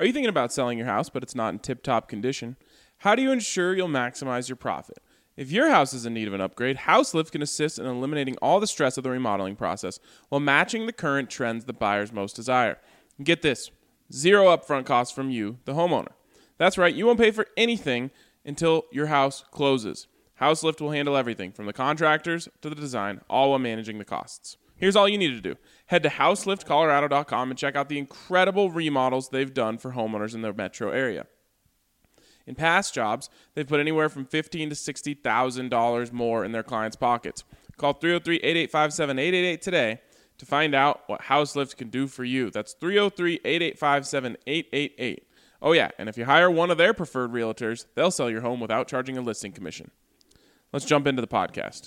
Are you thinking about selling your house, but it's not in tip-top condition? How do you ensure you'll maximize your profit? If your house is in need of an upgrade, HouseLift can assist in eliminating all the stress of the remodeling process while matching the current trends the buyers most desire. Get this, 0 upfront costs from you, the homeowner. That's right, you won't pay for anything until your house closes. HouseLift will handle everything from the contractors to the design, all while managing the costs. Here's all you need to do. Head to houseliftcolorado.com and check out the incredible remodels they've done for homeowners in the metro area. In past jobs, they've put anywhere from $15,000 to $60,000 more in their clients' pockets. Call 303-885-7888 today to find out what HouseLift can do for you. That's 303-885-7888. Oh yeah, and if you hire one of their preferred realtors, they'll sell your home without charging a listing commission. Let's jump into the podcast.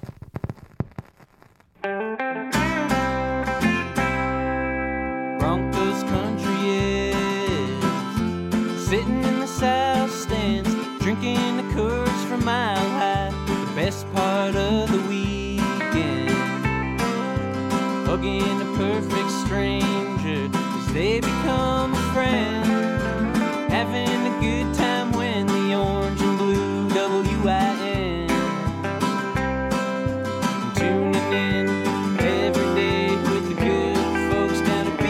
Broncos country is sitting in the south stands, drinking the Coors from Mile High. The best part of the weekend, hugging a perfect stranger as they become a friend, having a good time when the orange and blue WIN, tuning in every day with the good folks down at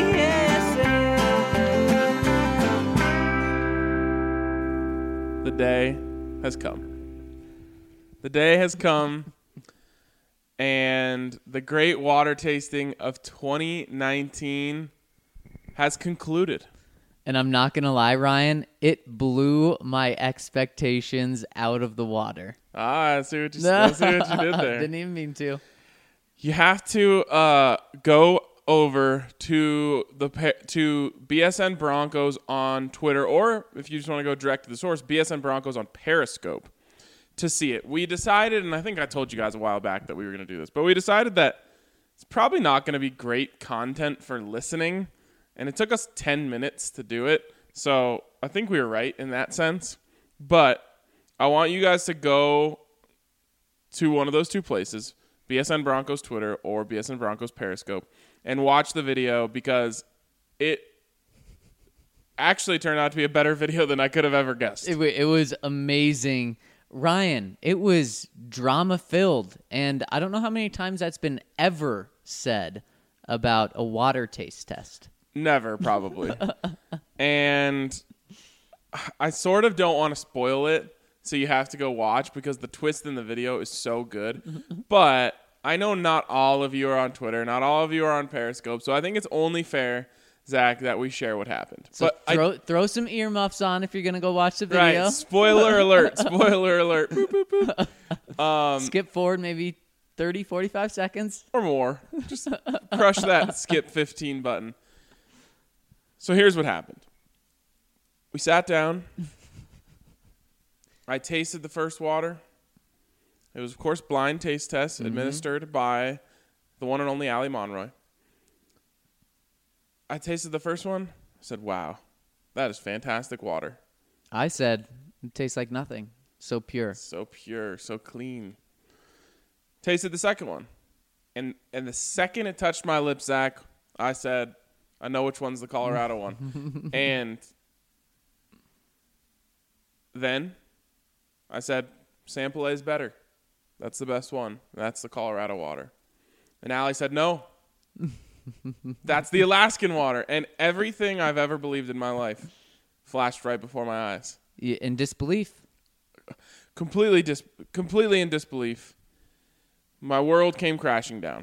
BSN. The day has come. The day has come, and the great water tasting of 2019 has concluded. And I'm not going to lie, Ryan, it blew my expectations out of the water. I see what you did there. Didn't even mean to. You have to go over to BSN Broncos on Twitter, or if you just want to go direct to the source, BSN Broncos on Periscope to see it. We decided, and I think I told you guys a while back that we were going to do this, but we decided that it's probably not going to be great content for listening, and it took us 10 minutes to do it, so I think we were right in that sense. But I want you guys to go to one of those two places, BSN Broncos Twitter or BSN Broncos Periscope, and watch the video, because it actually turned out to be a better video than I could have ever guessed. It was amazing. Ryan, it was drama-filled, and I don't know how many times that's been ever said about a water taste test. Never, probably. And I sort of don't want to spoil it, so you have to go watch, because the twist in the video is so good. But I know not all of you are on Twitter, not all of you are on Periscope, so I think it's only fair, Zach, that we share what happened. So but throw some earmuffs on if you're going to go watch the video. Right, spoiler alert, spoiler alert. Boop, boop, boop. Skip forward maybe 30, 45 seconds. Or more. Just crush that skip 15 button. So here's what happened. We sat down. I tasted the first water. It was, of course, blind taste test administered by the one and only Allie Monroy. I tasted the first one. I said, wow, that is fantastic water. I said, it tastes like nothing. So pure. So pure, so clean. Tasted the second one. And the second it touched my lips, Zach, I said, I know which one's the Colorado one. And then I said, Sample A is better. That's the best one. That's the Colorado water. And Allie said, no. That's the Alaskan water. And everything I've ever believed in my life flashed right before my eyes. In disbelief. Completely in disbelief. My world came crashing down.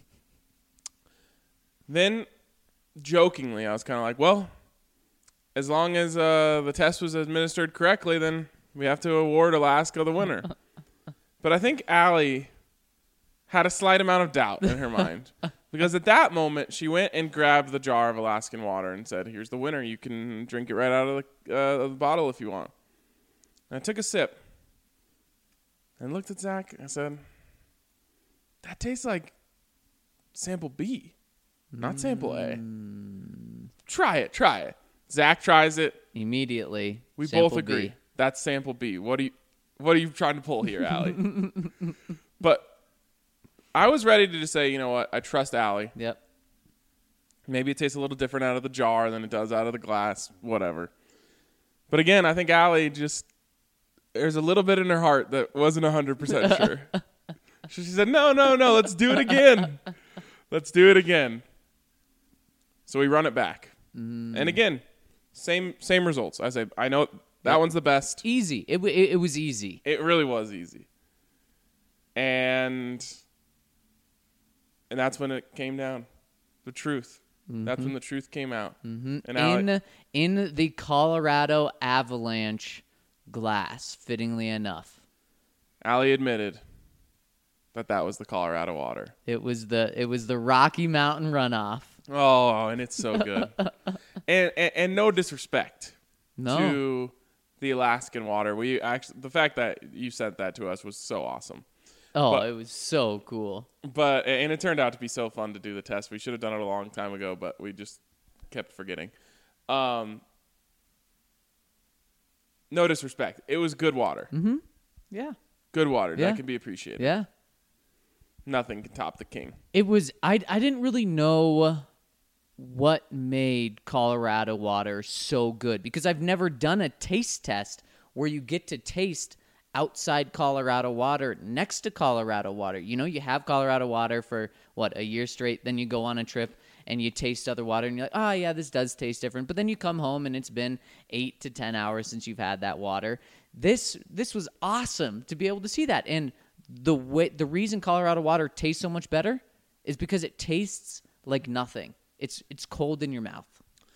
Then, jokingly, I was kind of like, well, as long as the test was administered correctly, then we have to award Alaska the winner. But I think Allie had a slight amount of doubt in her mind. Because at that moment, she went and grabbed the jar of Alaskan water and said, here's the winner. You can drink it right out of the bottle if you want. And I took a sip and looked at Zach and I said, that tastes like sample B, not sample A. Try it. Zach tries it. Immediately. We sample both agree. B. That's sample B. What are you trying to pull here, Allie? But I was ready to just say, you know what? I trust Allie. Yep. Maybe it tastes a little different out of the jar than it does out of the glass, whatever. But again, I think Allie just, there's a little bit in her heart that wasn't 100% sure. She said, no, let's do it again. Let's do it again. So we run it back. And again, same results. I know that one's the best. Easy. It was easy. It really was easy. And that's when it came down. The truth. That's when the truth came out. And in the Colorado Avalanche glass, fittingly enough, Allie admitted that was the Colorado water. it was the Rocky Mountain runoff. Oh, and it's so good. and no disrespect No. to the Alaskan water. The fact that you sent that to us was so awesome. Oh, But- it was so cool. And it turned out to be so fun to do the test. We should have done it a long time ago, but we just kept forgetting. No disrespect. It was good water. Yeah. Good water. Yeah. That can be appreciated. Yeah. Nothing can top the king. It was I didn't really know what made Colorado water so good because I've never done a taste test where you get to taste outside Colorado water next to Colorado water. You know, you have Colorado water for a year straight, then you go on a trip and you taste other water and you're like, oh yeah, this does taste different. But then you come home and it's been 8 to 10 hours since you've had that water. This was awesome to be able to see that. And the reason Colorado water tastes so much better is because it tastes like nothing. It's cold in your mouth.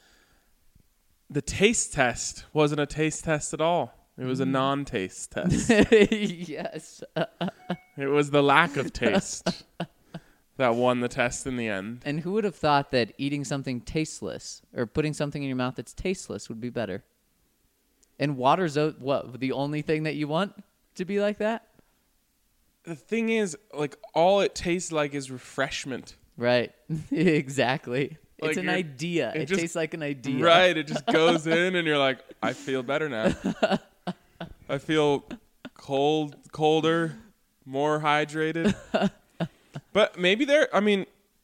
The taste test wasn't a taste test at all. It was a non-taste test. Yes. It was the lack of taste that won the test in the end. And who would have thought that eating something tasteless or putting something in your mouth that's tasteless would be better? And water's the only thing that you want to be like that? The thing is, like, all it tastes like is refreshment. Right. Exactly. Like it's an idea. It just- tastes like an idea. Right. It just goes in and you're like, I feel better now. I feel colder, more hydrated. But maybe I'm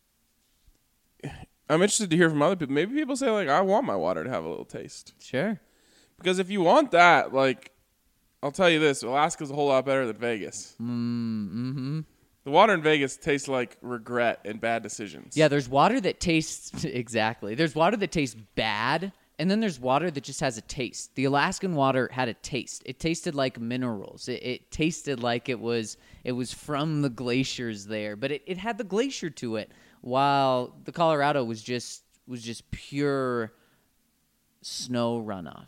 interested to hear from other people. Maybe people say, like, I want my water to have a little taste. Sure. Because if you want that, like, I'll tell you this, Alaska's a whole lot better than Vegas. The water in Vegas tastes like regret and bad decisions. Yeah, there's water that tastes exactly. There's water that tastes bad, and then there's water that just has a taste. The Alaskan water had a taste. It tasted like minerals. It tasted like it was from the glaciers there, but it had the glacier to it. While the Colorado was just pure snow runoff.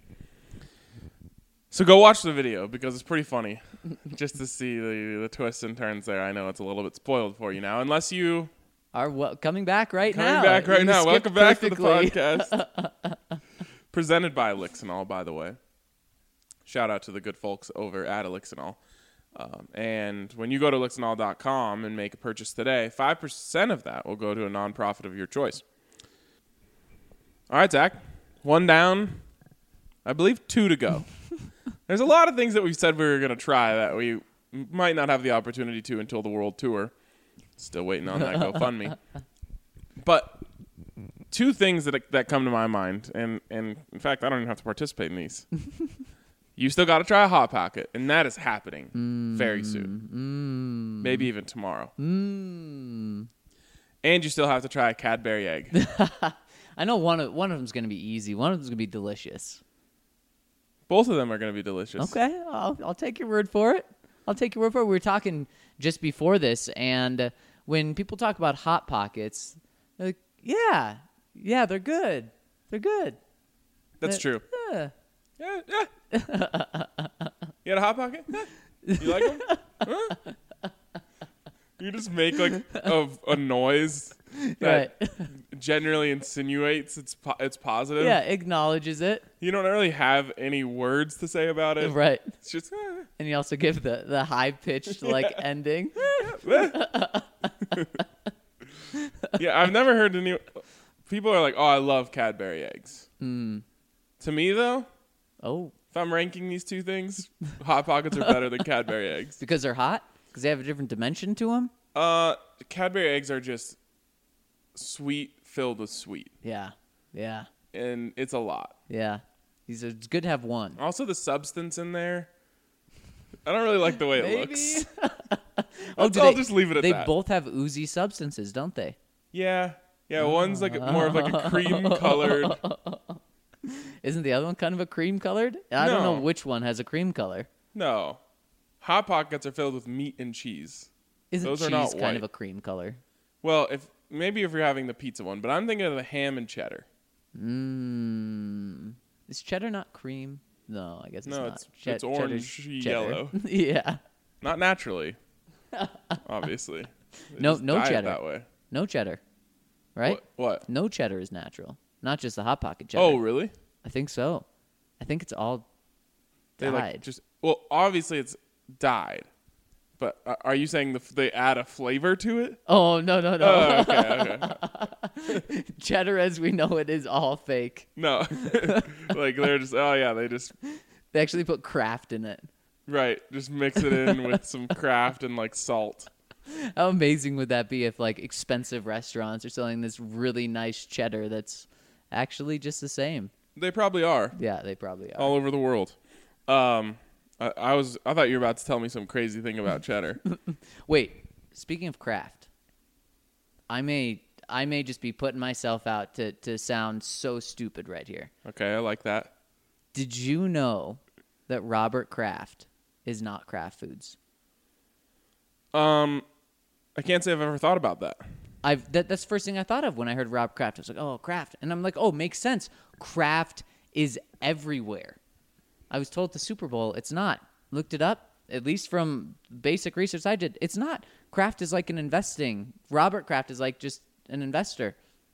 So go watch the video because it's pretty funny just to see the twists and turns there. I know it's a little bit spoiled for you now, unless you Are coming back right now. coming back right You now. skipped Welcome back to the perfectly. podcast. Presented by Elixinol, by the way. Shout out to the good folks over at Elixinol. And when you go to Elixinol.com and make a purchase today, 5% of that will go to a nonprofit of your choice. All right, Zach. 1 down. I believe 2 to go. There's a lot of things that we've said we were going to try that we might not have the opportunity to until the World Tour. Still waiting on that GoFundMe. But 2 things that come to my mind, and in fact, I don't even have to participate in these. You still got to try a Hot Pocket, and that is happening very soon. Maybe even tomorrow. And you still have to try a Cadbury egg. I know one of them's going to be easy. One of them's going to be delicious. Both of them are going to be delicious. Okay, I'll take your word for it. We were talking just before this, and when people talk about Hot Pockets, they're like, yeah, they're good. They're good. That's true. Yeah. Yeah. You had a Hot Pocket? Yeah. You like them? Huh? You just make like a noise that Right. generally insinuates it's positive. Yeah, acknowledges it. You don't really have any words to say about it. Right. It's just And you also give the high-pitched, ending. yeah. I've never heard any people are like, "Oh, I love Cadbury eggs." To me, though, Oh, if I'm ranking these 2 things, Hot Pockets are better than Cadbury eggs. because they're hot? Because they have a different dimension to them? Cadbury eggs are just sweet, filled with sweet. Yeah. Yeah. And it's a lot. Yeah. It's good to have one. Also, the substance in there, I don't really like the way it looks. I'll just leave it at that. They both have oozy substances, don't they? Yeah. Yeah, one's like more of like a cream colored. Isn't the other one kind of a cream colored? I don't know which one has a cream color. No. Hot Pockets are filled with meat and cheese. Isn't Those cheese are not kind white. of a cream color? Well, if you're having the pizza one, but I'm thinking of the ham and cheddar. Is cheddar not cream? No, I guess it's No, not. it's orange yellow. Yeah. Not naturally. Obviously. They No just dye it cheddar. that way. No cheddar. Right? What? No cheddar is natural. Not just the Hot Pocket cheddar. Oh, really? I think so. I think it's all They dyed. well, obviously it's dyed. But are you saying they add a flavor to it? Oh, no. Oh, okay. Cheddar as we know it is all fake. No. Like they're just, they just, They actually put Kraft in it. right, just mix it in with some Kraft and like salt. How amazing would that be if like expensive restaurants are selling this really nice cheddar that's actually just the same? They probably are. Yeah, they probably are. All over the world. I thought you were about to tell me some crazy thing about cheddar. Wait, speaking of Kraft, I may just be putting myself out to sound so stupid right here. Okay, I like that. Did you know that Robert Kraft is not Kraft Foods? I can't say I've ever thought about that. That's the first thing I thought of when I heard Rob Kraft. I was like, oh, Kraft. And I'm like, oh, makes sense. Kraft is everywhere. I was told at the Super Bowl it's not. Looked it up, at least from basic research I did. It's not. Kraft is like an investing. Robert Kraft is like just an investor.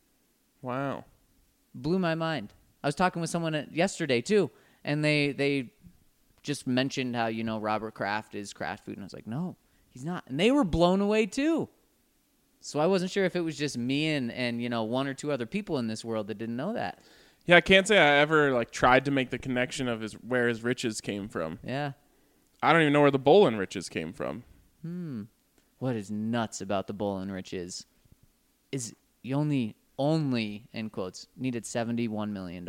Wow. Blew my mind. I was talking with someone yesterday, too, and they just mentioned how, Robert Kraft is Kraft Food. And I was like, no, he's not. And they were blown away, too. So I wasn't sure if it was just me and one or two other people in this world that didn't know that. Yeah, I can't say I ever tried to make the connection of where his riches came from. Yeah. I don't even know where the Bolin riches came from. What is nuts about the Bolin riches is you only in quotes needed $71 million.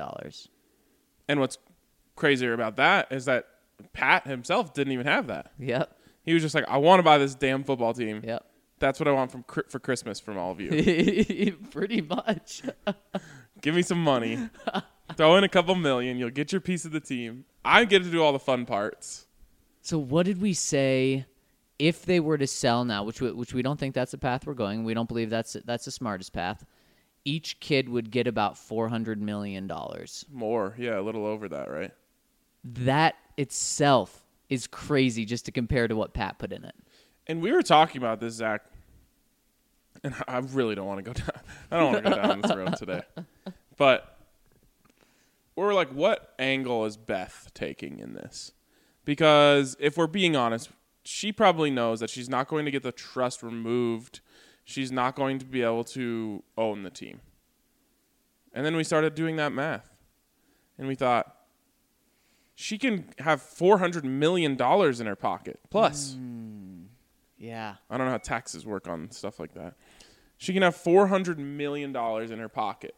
And what's crazier about that is that Pat himself didn't even have that. Yep. He was just like, I want to buy this damn football team. Yep. That's what I want for Christmas from all of you. Pretty much. Give me some money. Throw in a couple million. You'll get your piece of the team. I get to do all the fun parts. So what did we say if they were to sell now, which we don't think that's the path we're going. We don't believe that's the smartest path. Each kid would get about $400 million. More. Yeah, a little over that, right? That itself is crazy just to compare to what Pat put in it. And we were talking about this, Zach, and I really don't want to go down. I don't want to go down this road today. But we're like, what angle is Beth taking in this? Because if we're being honest, she probably knows that she's not going to get the trust removed. She's not going to be able to own the team. And then we started doing that math. And we thought, she can have $400 million in her pocket. Plus. Yeah. I don't know how taxes work on stuff like that. She can have $400 million in her pocket.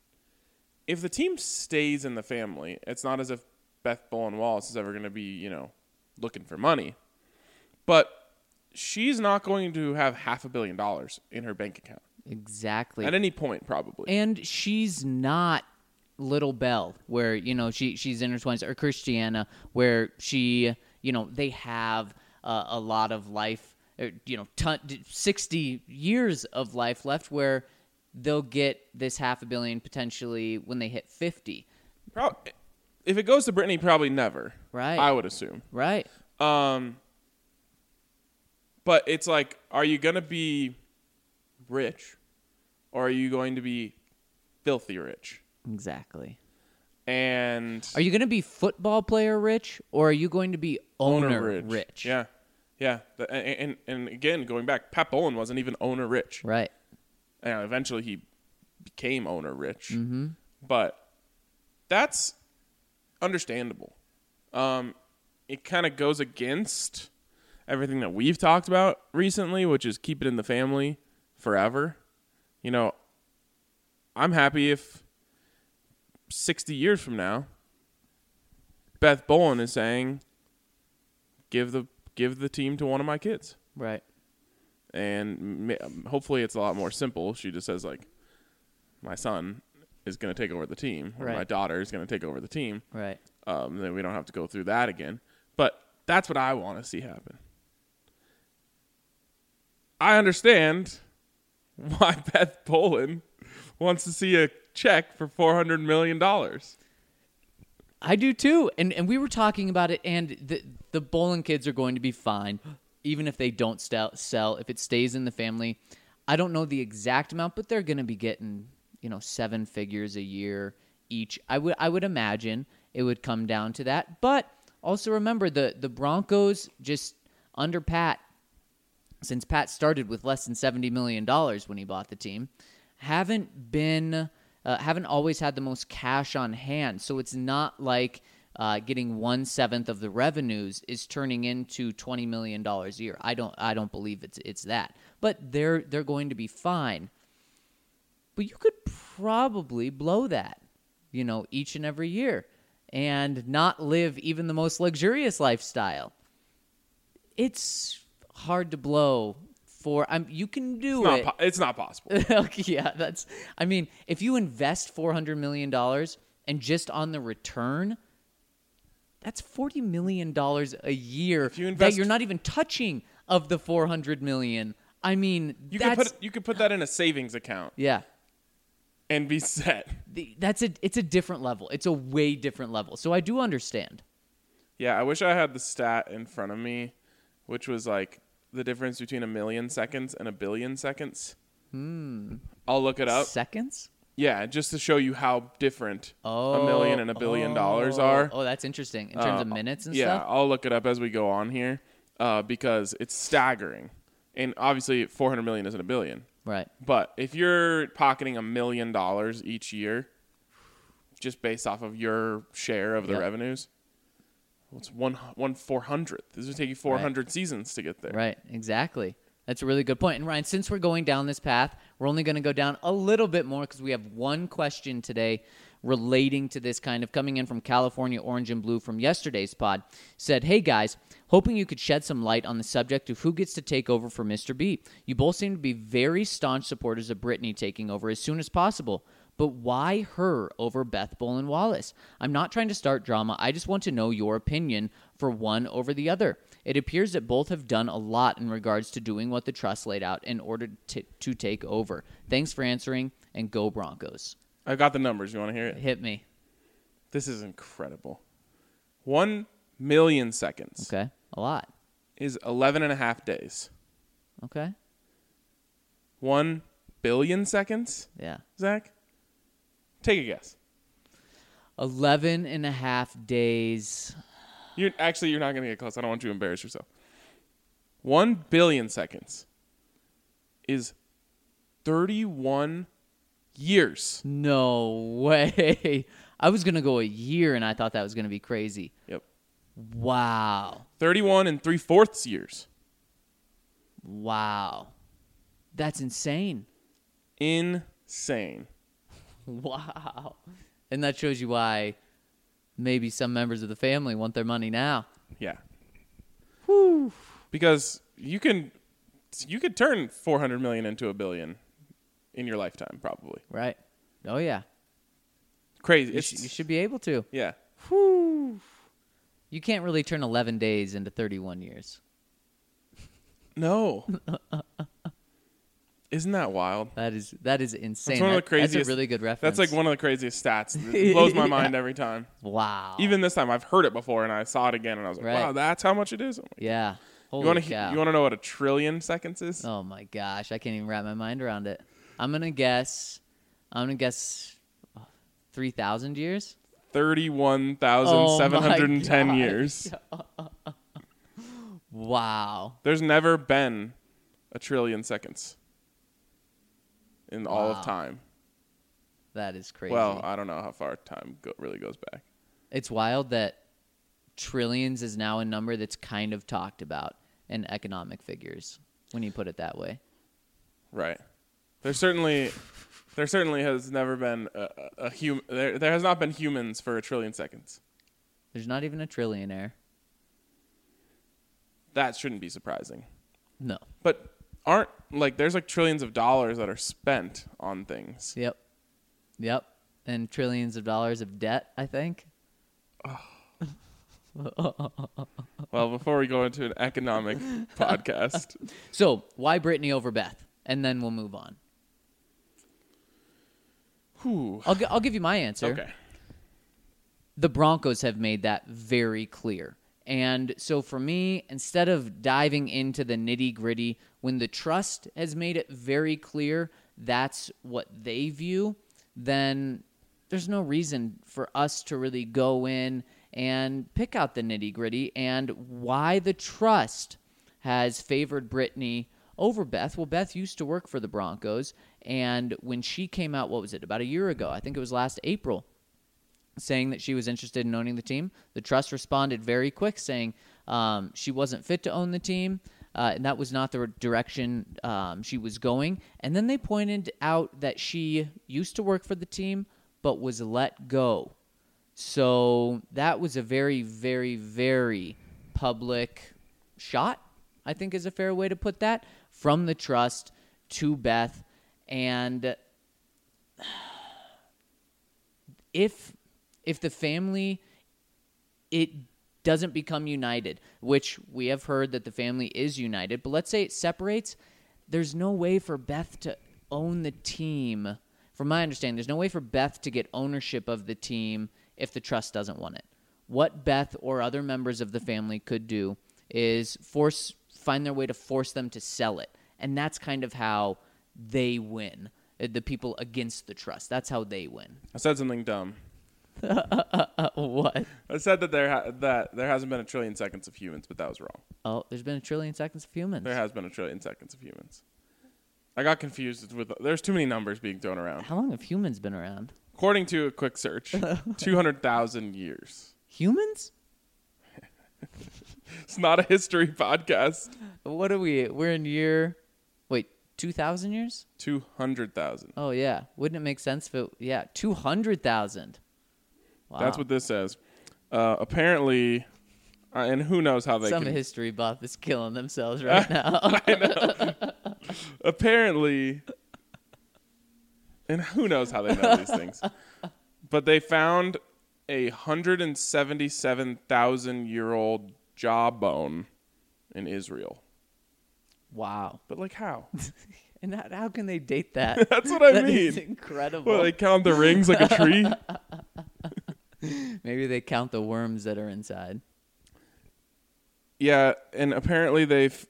If the team stays in the family, it's not as if Beth Bolin Wallace is ever going to be, looking for money. But she's not going to have $500 million in her bank account. Exactly. At any point, probably. And she's not Little Belle, where, she's in her 20s, or Christiana, where she, they have a lot of life, 60 years of life left, where they'll get this $500 million potentially when they hit 50. If it goes to Brittany, probably never. Right. I would assume. Right. But it's like, are you going to be rich or are you going to be filthy rich? Exactly. And are you going to be football player rich or are you going to be owner rich? Yeah. Yeah. And again, going back, Pat Bolin wasn't even owner rich. Right. And eventually he became owner rich. Mm-hmm. But that's understandable. It kind of goes against everything that we've talked about recently, which is keep it in the family forever. I'm happy if 60 years from now, Beth Bolin is saying, give the team to one of my kids. Right. And hopefully it's a lot more simple. She just says, like, my son is going to take over the team, or Right. my daughter is going to take over the team. Right. Then we don't have to go through that again. But that's what I want to see happen. I understand why Beth Bolin wants to see a check for $400 million. I do too. And we were talking about it, and the Bolin kids are going to be fine, even if they don't sell, if it stays in the family. I don't know the exact amount, but they're going to be getting, 7 figures a year each. I would imagine it would come down to that. But also remember, the Broncos just under Pat, since Pat started with less than $70 million when he bought the team, haven't always had the most cash on hand. So it's not like getting 1/7 of the revenues is turning into $20 million a year. I don't believe it's that. But they're going to be fine. But you could probably blow that, each and every year and not live even the most luxurious lifestyle. It's hard to blow for you can do it. It's not possible. Okay, yeah, if you invest $400 million and just on the return, that's $40 million a year If you invest, that you're not even touching of the $400 million. I mean, you could put that in a savings account. Yeah. And be set. It's a different level. It's a way different level. So I do understand. Yeah, I wish I had the stat in front of me, which was like the difference between 1 million seconds and 1 billion seconds. I'll look it up. Seconds? Yeah, just to show you how different 1 million and $1 billion are. Oh, that's interesting. In terms of minutes and Yeah, stuff? I'll look it up as we go on here because it's staggering. And obviously, 400 million isn't $1 billion. Right. But if you're pocketing $1 million each year, just based off of your share of the revenues, well, it's 1/400th. This would take you 400 seasons to get there. Right, exactly. That's a really good point. And Ryan, since we're going down this path, we're only going to go down a little bit more because we have one question today relating to this, kind of coming in from California Orange and Blue from yesterday's pod. Said, hey guys, hoping you could shed some light on the subject of who gets to take over for Mr. B. You both seem to be very staunch supporters of Britney taking over as soon as possible. But why her over Beth Bolin Wallace? I'm not trying to start drama. I just want to know your opinion for one over the other. It appears that both have done a lot in regards to doing what the trust laid out in order to take over. Thanks for answering, and go Broncos. I got the numbers. You want to hear it? Hit me. This is incredible. 1 million seconds. Okay, a lot. Is 11 and a half days. Okay. 1 billion seconds? Yeah. Zach? Take a guess. 11 and a half days. You're not going to get close. I don't want you to embarrass yourself. 1 billion seconds is 31 years. No way. I was going to go a year, and I thought that was going to be crazy. Yep. Wow. 31 and 3/4 years. Wow. That's insane. Insane. Wow. And that shows you why maybe some members of the family want their money now. Yeah. Whew. Because you could turn 400 million into $1 billion in your lifetime, probably. Right. Oh, yeah. Crazy. You should be able to. Yeah. Whew. You can't really turn 11 days into 31 years. No. Isn't that wild? That is insane. That's one of the craziest. That's a really good reference. That's like one of the craziest stats. It blows my mind every time. Wow. Even this time, I've heard it before, and I saw it again, and I was like, Right. Wow, that's how much it is? Yeah. Holy You want cow. to know what 1 trillion seconds is? Oh my gosh, I can't even wrap my mind around it. I'm gonna guess 3,000 years. 31,710 Oh years. Wow. There's never been 1 trillion seconds in all Wow. of time. That is crazy. Well, I don't know how far time really goes back. It's wild that trillions is now a number that's kind of talked about in economic figures when you put it that way. Right. There certainly has never been a human. There has not been humans for 1 trillion seconds. There's not even a trillionaire. That shouldn't be surprising. No. But there's like trillions of dollars that are spent on things. Yep. And trillions of dollars of debt, I think. Well, before we go into an economic podcast. So, why Brittany over Beth? And then we'll move on. Whew. I'll give you my answer. Okay. The Broncos have made that very clear. And so for me, instead of diving into the nitty-gritty, when the trust has made it very clear that's what they view, then there's no reason for us to really go in and pick out the nitty-gritty and why the trust has favored Brittany over Beth. Well, Beth used to work for the Broncos, and when she came out, what was it, about a year ago? I think it was last April, saying that she was interested in owning the team. The trust responded very quick, saying she wasn't fit to own the team, and that was not the direction she was going. And then they pointed out that she used to work for the team, but was let go. So that was a very, very, very public shot, I think is a fair way to put that, from the trust to Beth. And if the family, it doesn't become united, which we have heard that the family is united, but let's say it separates, there's no way for Beth to own the team. From my understanding, there's no way for Beth to get ownership of the team if the trust doesn't want it. What Beth or other members of the family could do is find their way to force them to sell it. And that's kind of how they win. The people against the trust. That's how they win. I said something dumb. What? I said that there hasn't been 1 trillion seconds of humans, but that was wrong. Oh, there's been 1 trillion seconds of humans. There has been 1 trillion seconds of humans. I got confused with. There's too many numbers being thrown around. How long have humans been around? According to a quick search, 200,000 years. Humans? It's not a history podcast. What are we? We're in year... Wait, 2,000 years? 200,000. Oh, yeah. Wouldn't it make sense if it... Yeah, 200,000. Wow. That's what this says. Apparently, and who knows how they Some can... history buff is killing themselves right now. I know. Apparently, and who knows how they know these things, but they found a 177,000-year-old jawbone in Israel. Wow. But like how? And how can they date that? That's what I That mean. is incredible. Well, they count the rings like a tree. Maybe they count the worms that are inside. Yeah, and apparently they've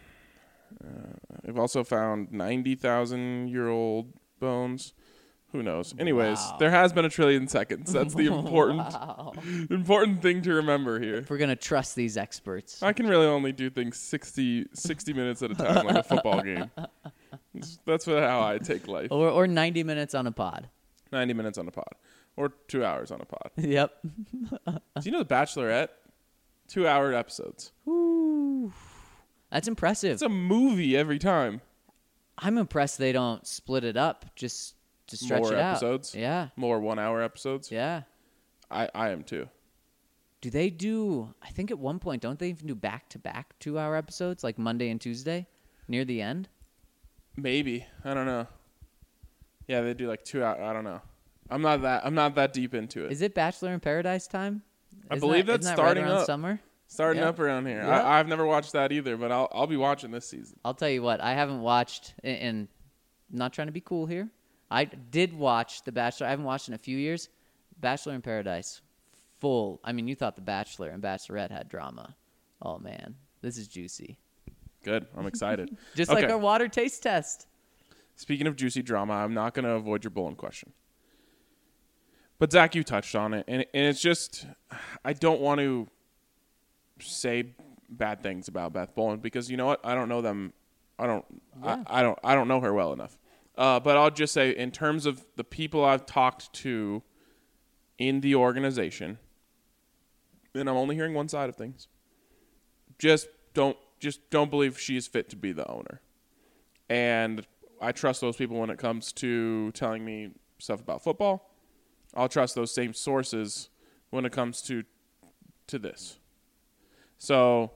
also found 90,000-year-old bones. Who knows? Anyways, Wow. There has been 1 trillion seconds. That's the Wow. important thing to remember here. If we're going to trust these experts. I can really only do things 60 minutes at a time, like a football game. That's how I take life. Or 90 minutes on a pod. 90 minutes on a pod. Or 2 hours on a pod. Yep. Do you know The Bachelorette? 2-hour episodes. Ooh. That's impressive. It's a movie every time. I'm impressed they don't split it up just to stretch More it out. episodes? Yeah. More 1-hour episodes? Yeah. I am too. Do they do, I think at one point, don't they even do back-to-back 2-hour episodes, like Monday and Tuesday, near the end? Maybe. I don't know. Yeah, they do like 2 hours. I don't know. I'm not that deep into it. Is it Bachelor in Paradise time? I believe that's isn't that starting right around up. Summer? Starting Yeah. up around here. Yeah. I've never watched that either, but I'll be watching this season. I'll tell you what, I haven't watched, and I'm not trying to be cool here. I did watch The Bachelor. I haven't watched in a few years. Bachelor in Paradise, full. I mean, you thought The Bachelor and Bachelorette had drama. Oh, man. This is juicy. Good. I'm excited. Just Okay. like our water taste test. Speaking of juicy drama, I'm not going to avoid your Bullen question. But, Zach, you touched on it, and it's just I don't want to say bad things about Beth Bullen because you know what? I don't know them. I don't know her well enough. But I'll just say in terms of the people I've talked to in the organization, and I'm only hearing one side of things, just don't believe she is fit to be the owner. And I trust those people when it comes to telling me stuff about football. I'll trust those same sources when it comes to this. So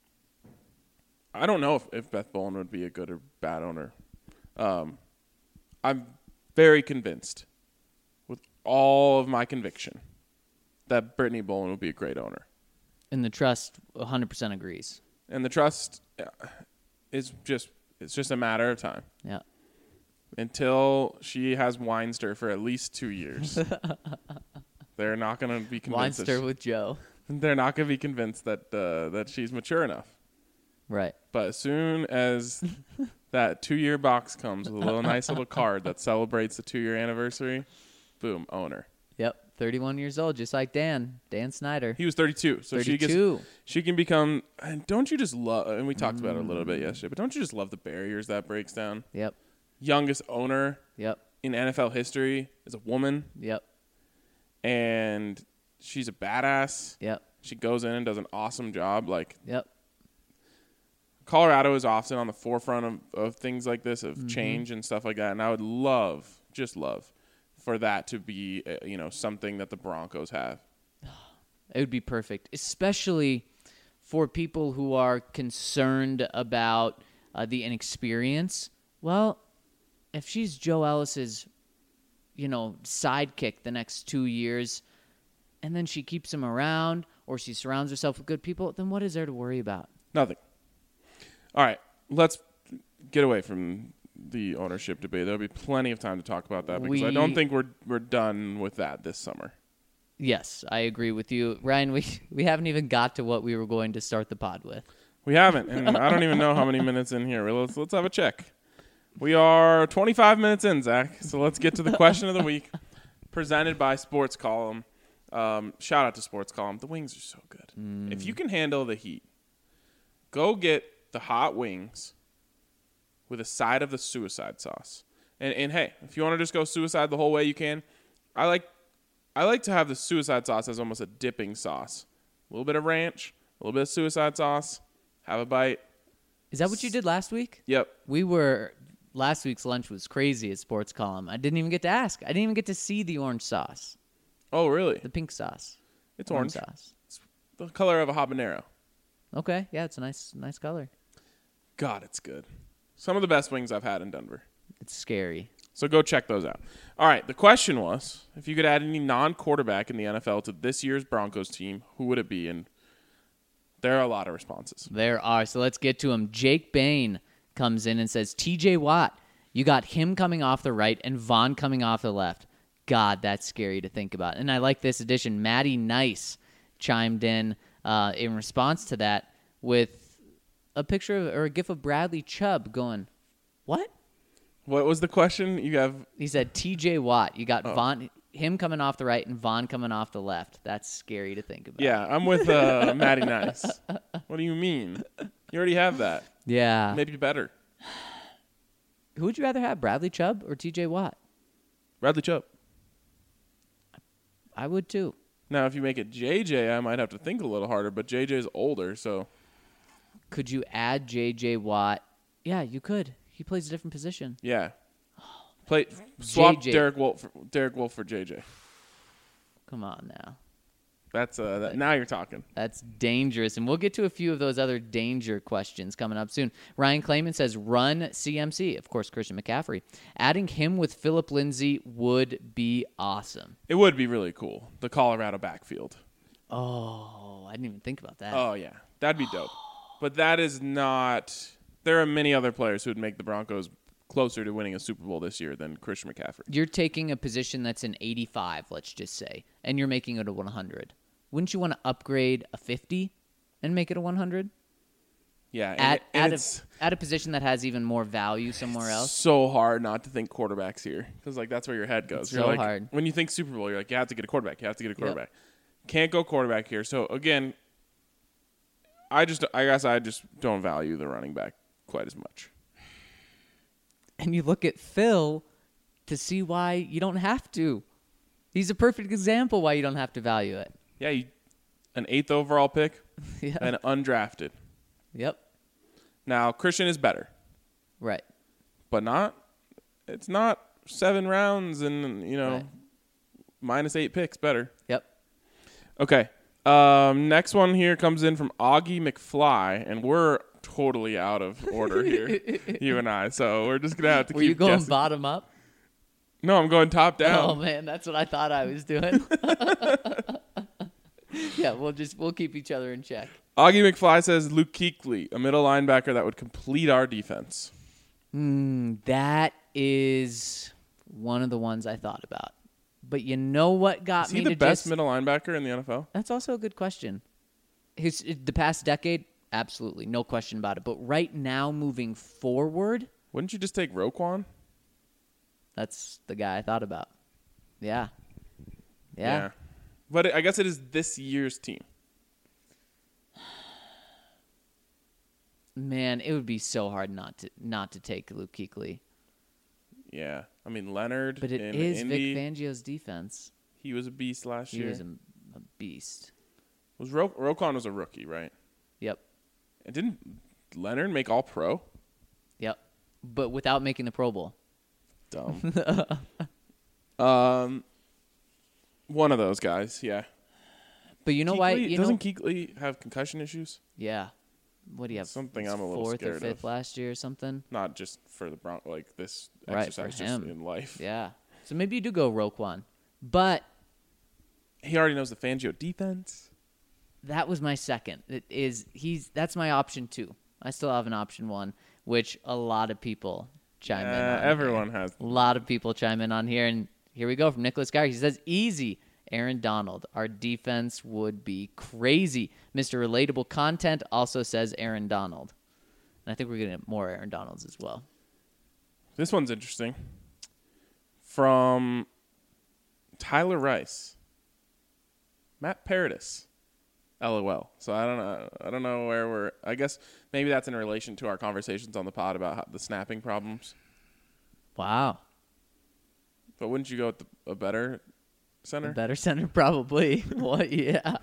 I don't know if Beth Bowen would be a good or bad owner. I'm very convinced, with all of my conviction, that Brittany Bowen would be a great owner. And the trust 100% agrees. And the trust it's just a matter of time. Yeah. Until she has Weinster for at least 2 years. They're not going to be convinced. Weinster with Joe. They're not going to be convinced that she's mature enough. Right. But as soon as that 2-year box comes with a nice little card that celebrates the 2-year anniversary, boom, owner. Yep. 31 years old, just like Dan Snyder. He was 32. So 32. she can become, and don't you just love, and we talked about it a little bit yesterday, but don't you just love the barriers that breaks down? Yep. Youngest owner Yep. in NFL history is a woman, Yep. and she's a badass. Yep. She goes in and does an awesome job. Like, Yep. Colorado is often on the forefront of things like this, of change and stuff like that. And I would love, just love, for that to be, something that the Broncos have. It would be perfect, especially for people who are concerned about the inexperience. Well, if she's Joe Ellis's, sidekick the next 2 years, and then she keeps him around, or she surrounds herself with good people, then what is there to worry about? Nothing. All right, let's get away from the ownership debate. There'll be plenty of time to talk about that because I don't think we're done with that this summer. Yes, I agree with you. Ryan, we haven't even got to what we were going to start the pod with. We haven't, and I don't even know how many minutes in here. Let's have a check. We are 25 minutes in, Zach, so let's get to the question of the week, presented by Sports Column. Shout out to Sports Column. The wings are so good. If you can handle the heat, go get the hot wings with a side of the suicide sauce. And hey, if you want to just go suicide the whole way, you can. I like to have the suicide sauce as almost a dipping sauce. A little bit of ranch, a little bit of suicide sauce. Have a bite. Is that what you did last week? Yep. Last week's lunch was crazy at Sports Column. I didn't even get to ask. I didn't even get to see the orange sauce. Oh, really? The pink sauce. It's orange. sauce. It's the color of a habanero. Okay, yeah, it's a nice color. God, it's good. Some of the best wings I've had in Denver. It's scary. So go check those out. All right, the question was, if you could add any non-quarterback in the NFL to this year's Broncos team, who would it be? And there are a lot of responses. There are. So let's get to them. Jake Bain comes in and says, TJ Watt, you got him coming off the right and Vaughn coming off the left. God, that's scary to think about. And I like this addition. Maddie Nice chimed in response to that with a picture of, or a gif of Bradley Chubb going, what? What was the question? He said TJ Watt. You got him coming off the right and Vaughn coming off the left. That's scary to think about. Yeah, I'm with Maddie Nice. What do you mean? You already have that. Yeah. Maybe better. Who would you rather have, Bradley Chubb or TJ Watt? Bradley Chubb. I would too. Now, if you make it JJ, I might have to think a little harder, but JJ's older, so. Could you add JJ Watt? Yeah, you could. He plays a different position. Yeah. Swap JJ. Derek Wolfe for JJ. Come on now. That's now you're talking. That's dangerous. And we'll get to a few of those other danger questions coming up soon. Ryan Clayman says, run CMC. Of course, Christian McCaffrey. Adding him with Phillip Lindsay would be awesome. It would be really cool. The Colorado backfield. Oh, I didn't even think about that. Oh, yeah. That'd be dope. But that is not – there are many other players who would make the Broncos closer to winning a Super Bowl this year than Christian McCaffrey. You're taking a position that's an 85, let's just say, and you're making it a 100. Wouldn't you want to upgrade a 50 and make it a 100? Yeah. At a position that has even more value somewhere else? So hard not to think quarterbacks here because, that's where your head goes. It's you're so like, hard. When you think Super Bowl, you're like, you have to get a quarterback. You have to get a quarterback. Yep. Can't go quarterback here. So, again, I guess I just don't value the running back quite as much. And you look at Phil to see why you don't have to. He's a perfect example why you don't have to value it. Yeah, an 8th overall pick Yeah. and undrafted. Yep. Now, Christian is better, Right. but not it's not 7 rounds and, Right. minus 8 picks better. Yep. Okay. Next one here comes in from Augie McFly, and we're totally out of order here, you and I. So we're just gonna have to Were keep you going guessing. bottom up? No, I'm going top Oh down. man, that's what I thought I was doing. Yeah, we'll keep each other in check. Augie McFly says Luke Kuechly, a middle linebacker that would complete our defense. That is one of the ones I thought about. But you know what got Is me he the to best just... middle linebacker in the NFL? That's also a good question. The past decade, absolutely, no question about it. But right now, moving forward, Wouldn't you just take Roquan? that's the guy I thought about. Yeah. But I guess it is this year's team. Man, it would be so hard not to take Luke Kuechly. Yeah. I mean, Leonard But it in is Indy, Vic Fangio's defense. he was a beast last He year. was a beast. Roquan was a rookie, right? Yep. And didn't Leonard make all pro? Yep. But without making the Pro Bowl. Dumb. One of those guys, yeah. But you know why? Doesn't Kuechly have concussion issues? Yeah. What do you have? Something I'm a little fourth scared or fifth of. last year or something? Not just for the like this Right, for exercise, just him. in life. Yeah. So maybe you do go Roquan. But He already knows the Fangio defense. that was my second. That's my option 2. I still have an option 1, which a lot of people chime in on. Everyone here. has. A lot of people chime in on here, and here we go from Nicholas Geyer. He says, easy, Aaron Donald. Our defense would be crazy. Mr. Relatable Content also says Aaron Donald. And I think we're going to get more Aaron Donalds as well. This one's interesting. From Tyler Rice. Matt Paradis. LOL. So I don't know where we're. I guess maybe that's in relation to our conversations on the pod about the snapping problems. Wow. But wouldn't you go with a better A center? better center, probably. What? Yeah.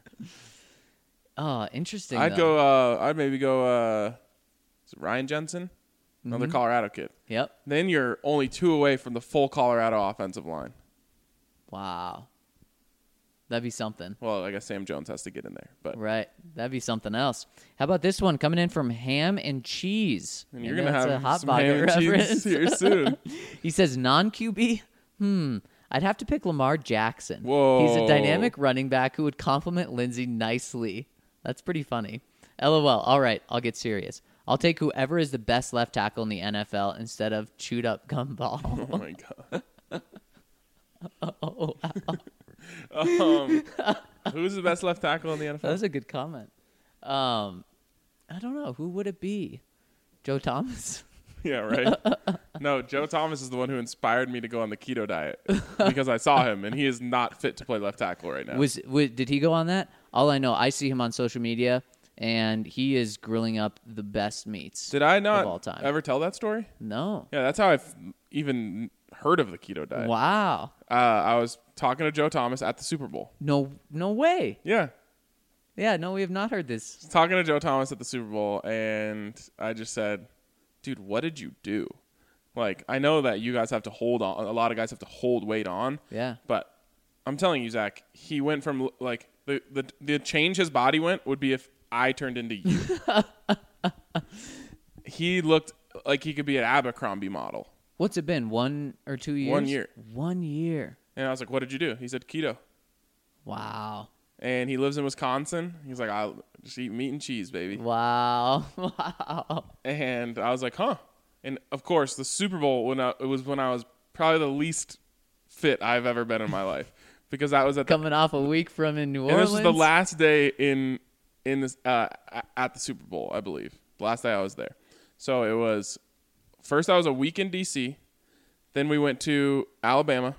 Oh, interesting. I'd though. go. I'd maybe go. Is it Ryan Jensen, another Colorado kid. Yep. Then you're only 2 away from the full Colorado offensive line. Wow. That'd be something. Well, I guess Sam Jones has to get in there, but Right. That'd be something else. How about this one coming in from Ham and Cheese? and you're Maybe gonna that's have a hot some pocket ham and cheese reference. here soon. He says non-QB? I'd have to pick Lamar Jackson. Whoa. He's a dynamic running back who would complement Lindsey nicely. That's pretty funny. LOL. All right, I'll get serious. I'll take whoever is the best left tackle in the NFL instead of chewed up gumball. Oh my god. Who's the best left tackle in the NFL? That was a good comment. I don't know. Who would it be? Joe Thomas? Yeah, right. No, Joe Thomas is the one who inspired me to go on the keto diet because I saw him and he is not fit to play left tackle right now. Did he go on that? All I know, I see him on social media, and he is grilling up the best meats. Did I of all not time. ever tell that story? No. Yeah, that's how I've even heard of the keto diet. Wow. I was talking to Joe Thomas at the Super Bowl. No way. Yeah. Yeah, no, we have not heard this. Talking to Joe Thomas at the Super Bowl, and I just said, dude, what did you do? Like, I know that you guys have to hold on. A lot of guys have to hold weight on. Yeah. But I'm telling you, Zach, he went from, like, the change his body went would be if I turned into you. He looked like he could be an Abercrombie model. What's it been, 1 or 2 years? 1 year. 1 year. And I was like, what did you do? He said keto. Wow. And he lives in Wisconsin. He's like, I'll just eat meat and cheese, baby. Wow. Wow. And I was like, huh. And, of course, the Super Bowl, it was when I was probably the least fit I've ever been in my life. Because that was at Coming off a week from in New and Orleans. this was the last day in this at the Super Bowl, I believe. The last day I was there. So it was first I was a week in DC, then we went to Alabama,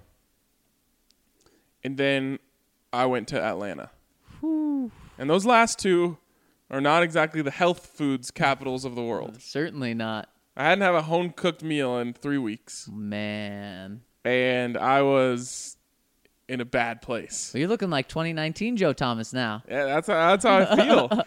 and then I went to Atlanta. Whew. And those last two are not exactly the health foods capitals of the world. Certainly not. I hadn't had a home cooked meal in 3 weeks, Man. and I was in a bad place. Well, you're looking like 2019 Joe Thomas now. Yeah, that's how I feel.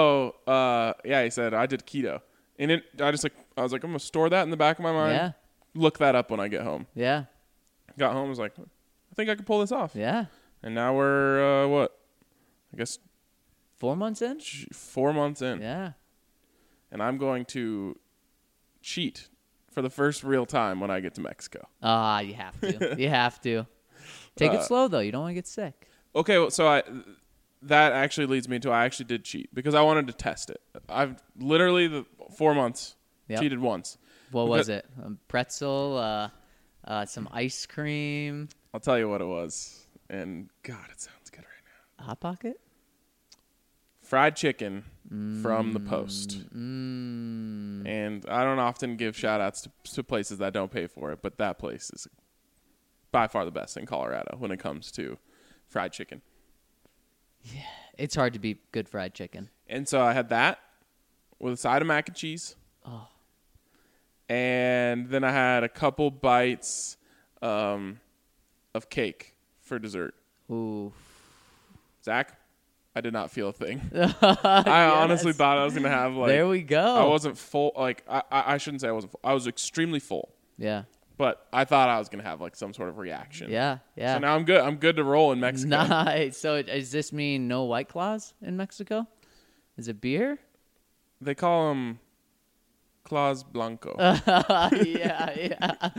So, he said I did keto, and I was like, I'm gonna store that in the back of my mind. Yeah. look that up when I get home. Yeah. Got home, was like, I think I could pull this off. Yeah. And now we're what? I guess 4 months in? 4 months in. Yeah. And I'm going to cheat for the first real time when I get to Mexico. You have to. You have to. Take it slow, though. You don't want to get sick. Okay, well, so that actually leads me to I actually did cheat because I wanted to test it. I've literally the 4 months cheated once. What was it? Pretzel, some ice cream. I'll tell you what it was. And God, it sounds good right now. Hot Pocket? Fried chicken from the Post. And I don't often give shout outs to places that don't pay for it, but that place is by far the best in Colorado when it comes to fried chicken. Yeah, it's hard to beat good fried chicken. And so I had that with a side of mac and cheese. Oh. And then I had a couple bites of cake for dessert. Ooh. Zach, I did not feel a thing. I honestly thought I was going to have like... There we go. I wasn't full. Like, I shouldn't say I wasn't full. I was extremely full. Yeah. But I thought I was going to have like some sort of reaction. Yeah, yeah. So now I'm good. I'm good to roll in Mexico. Nice. So does this mean no White Claws in Mexico? Is it beer? They call them Claus Blanco. Yeah.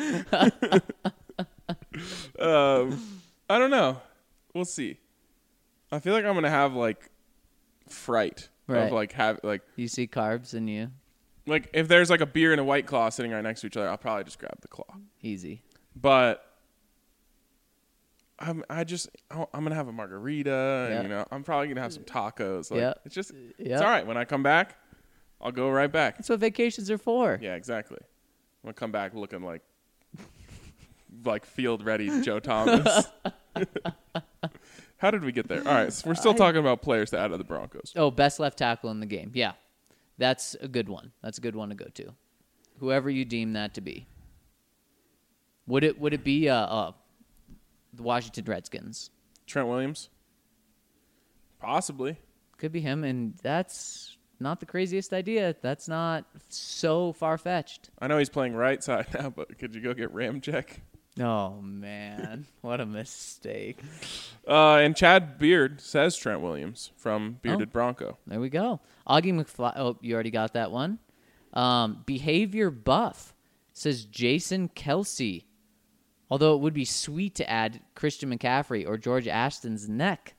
I don't know. We'll see. I feel like I'm going to have like fright Right. of You see carbs in you. like if there's like a beer and a White Claw sitting right next to each other, I'll probably just grab the claw. Easy. But I'm gonna have a margarita, Yeah. and I'm probably gonna have some tacos. Like, Yeah. it's just Yeah. it's all right. When I come back, I'll go right back. That's what vacations are for. Yeah, exactly. I'm gonna come back looking like field ready Joe Thomas. How did we get there? All right, so we're still talking about players to add to the Broncos. Oh, best left tackle in the game. Yeah. That's a good one. That's a good one to go to. Whoever you deem that to be. Would it be the Washington Redskins? Trent Williams, possibly. Could be him, and that's not the craziest idea. That's not so far-fetched. I know he's playing right side now, but could you go get Ramczyk? Oh, man. What a mistake. And Chad Beard says Trent Williams from Bearded Bronco. There we go. Augie McFly. Oh, you already got that one. Behavior Buff says Jason Kelsey. Although it would be sweet to add Christian McCaffrey or George Ashton's neck.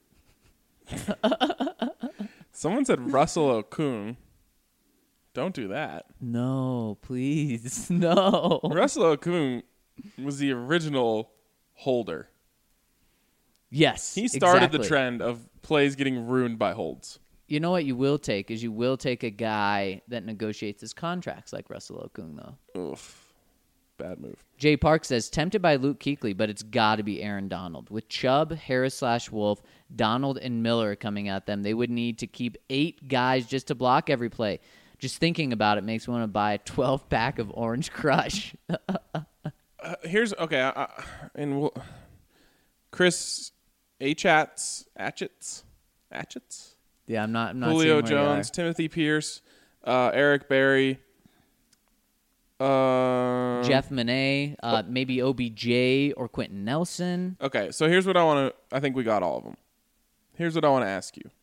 Someone said Russell Okung. Don't do that. No, please. No. Russell Okung was the original holder. Yes. He started the exactly. trend of plays getting ruined by holds. You know what you will take is you will take a guy that negotiates his contracts like Russell Okung, though. Oof. Bad move. Jay Park says, tempted by Luke Kuechly, but it's got to be Aaron Donald. With Chubb, Harris/Wolf, Donald, and Miller coming at them, they would need to keep 8 guys just to block every play. Just thinking about it makes me want to buy a 12-pack of Orange Crush. Here's okay. Chris Atchits. Yeah, I'm not Julio seeing where they Jones, are. Timothy Pierce, Eric Berry, Jeff Monet, maybe OBJ or Quentin Nelson. Okay, so here's what I think we got all of them. Here's what I want to ask you.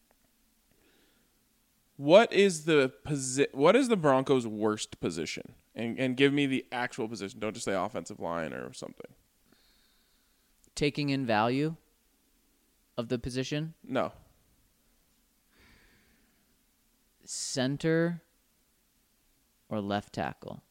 What is the Broncos' worst position? And give me the actual position. Don't just say offensive line or something. Taking in value of the position. No. Center or left tackle.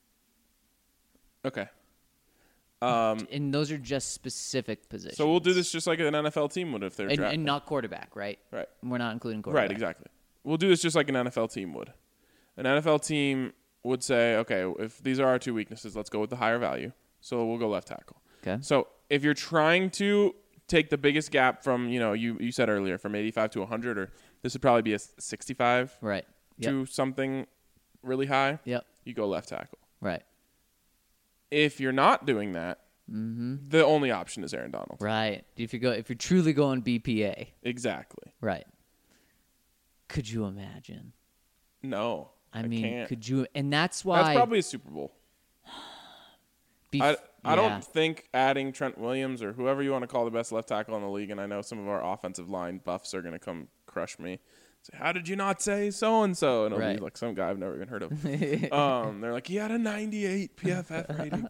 Okay. And those are just specific positions. So we'll do this just like an NFL team would if they're drafting. and not quarterback, right? Right. We're not including quarterback. Right, exactly. We'll do this just like an NFL team would. An NFL team would say, okay, if these are our 2 weaknesses, let's go with the higher value. So we'll go left tackle. Okay. So if you're trying to take the biggest gap from, you said earlier, from 85 to 100, or this would probably be a 65 Right. to something really high, Yep. you go left tackle. Right. If you're not doing that, the only option is Aaron Donald. Right. If you're truly going BPA. Exactly. Right. Could you imagine? No. I mean, can't. could you? And that's why. That's probably a Super Bowl. I don't think adding Trent Williams or whoever you want to call the best left tackle in the league, and I know some of our offensive line buffs are going to come crush me. Say, how did you not say so-and-so? And it'll be like some guy I've never even heard of. They're like, he had a 98 PFF rating.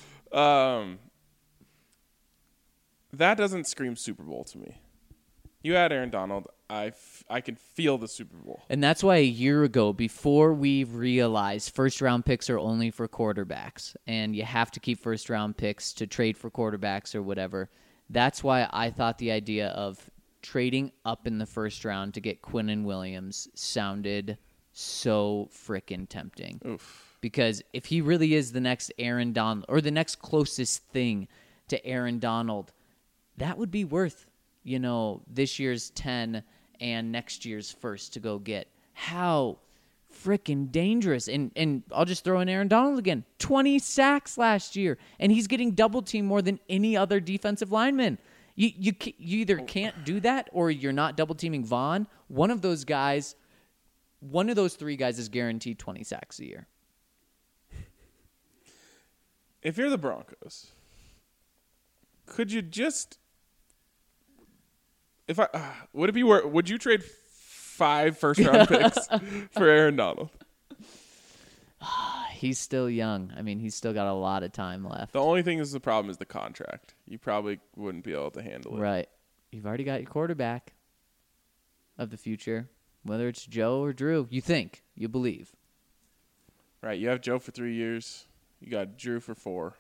That doesn't scream Super Bowl to me. You had Aaron Donald. I can feel the Super Bowl. And that's why a year ago, before we realized first-round picks are only for quarterbacks, and you have to keep first-round picks to trade for quarterbacks or whatever, that's why I thought the idea of trading up in the first round to get Quinnen Williams sounded so freaking tempting. Oof. Because if he really is the next Aaron Donald, or the next closest thing to Aaron Donald, that would be worth, this year's 10 and next year's first to go get. How freaking dangerous. And I'll just throw in Aaron Donald again. 20 sacks last year, and he's getting double teamed more than any other defensive lineman. You either can't do that or you're not double teaming Vaughn. One of those three guys is guaranteed 20 sacks a year. If you're the Broncos, could you just would you trade 5 first-round picks for Aaron Donald? He's still young. I mean, he's still got a lot of time left. The only thing is the problem is the contract. You probably wouldn't be able to handle it. Right. You've already got your quarterback of the future, whether it's Joe or Drew. You think. You believe. Right. You have Joe for 3 years. You got Drew for 4.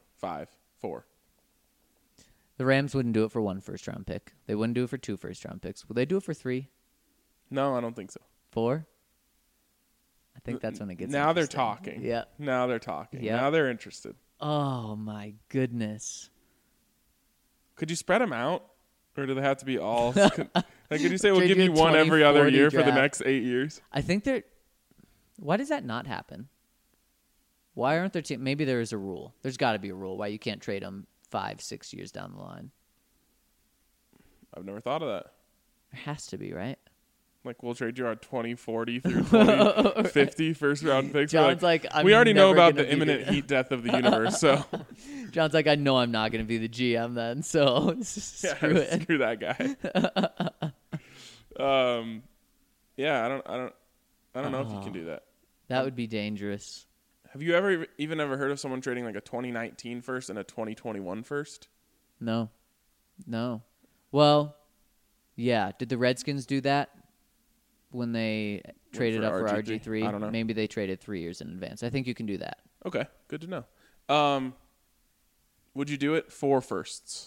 The Rams wouldn't do it for 1 first-round pick. They wouldn't do it for 2 first-round picks. Will they do it for 3? No, I don't think so. 4? I think that's when it gets now interesting. they're talking. Yeah. Now they're talking. Yep. Now they're interested. Oh, my goodness. Could you spread them out? Or do they have to be all? Could you say we'll give you 1 every 20-40 other year draft. for the next 8 years? I think why does that not happen? Why aren't there maybe there is a rule. There's got to be a rule why you can't trade them 5-6 years down the line. I've never thought of that. There has to be, right? Like, we'll trade you our 2040 through 2050 first-round picks. John's like, we already know about the imminent heat death of the universe, so. John's like, I know I'm not going to be the GM then, so screw it. Screw that guy. Yeah, I don't know if you can do that. That would be dangerous. Have you ever heard of someone trading like a 2019 first and a 2021 first? No. Well, yeah. Did the Redskins do that when they traded up for RG3? I don't know. Maybe they traded 3 years in advance. I think you can do that. Okay, good to know. Would you do it 4 firsts?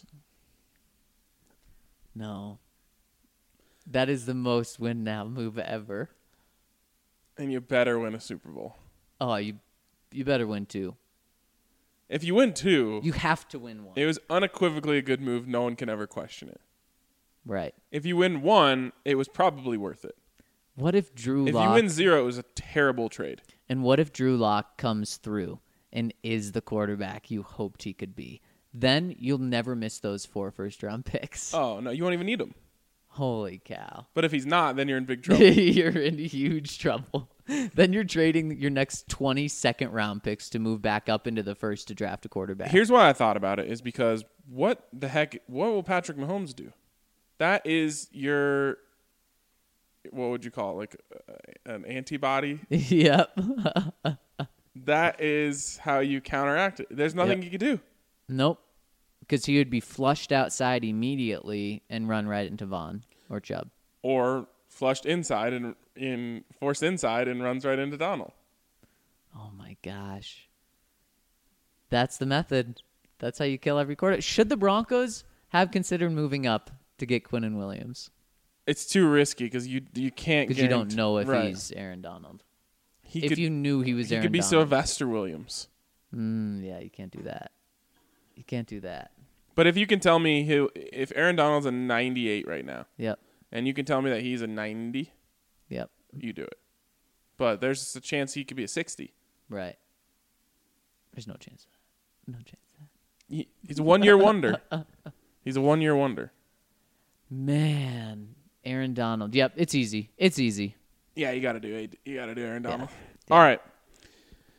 No. That is the most win now move ever. And you better win a Super Bowl. Oh, you better win 2. If you win 2, you have to win 1. It was unequivocally a good move. No one can ever question it. Right. If you win 1, it was probably worth it. What if Drew Lock... If you win 0, it was a terrible trade. And what if Drew Lock comes through and is the quarterback you hoped he could be? Then you'll never miss those 4 first-round picks. Oh, no, you won't even need them. Holy cow. But if he's not, then you're in big trouble. You're in huge trouble. Then you're trading your next 20 second-round picks to move back up into the first to draft a quarterback. Here's why I thought about it, is because what will Patrick Mahomes do? That is your, what would you call it, like an antibody? Yep. That is how you counteract it. There's nothing you can do. Nope. Because he would be flushed outside immediately and run right into Vaughn or Chubb. Or flushed inside and forced inside and runs right into Donald. Oh, my gosh. That's the method. That's how you kill every quarter. Should the Broncos have considered moving up to get Quinnen Williams? It's too risky because you can't. Because you don't know if he's Aaron Donald. You knew he was Aaron Donald. He could be Sylvester Williams. Yeah, you can't do that. You can't do that. But if you can tell me if Aaron Donald's a 98 right now. Yep. And you can tell me that he's a 90. Yep. You do it. But there's a chance he could be a 60. Right. There's no chance of that. No chance of that. He's a 1-year wonder. He's a 1-year wonder. Man, Aaron Donald. Yep, it's easy. It's easy. Yeah, you got to do Aaron Donald. Yeah. All right.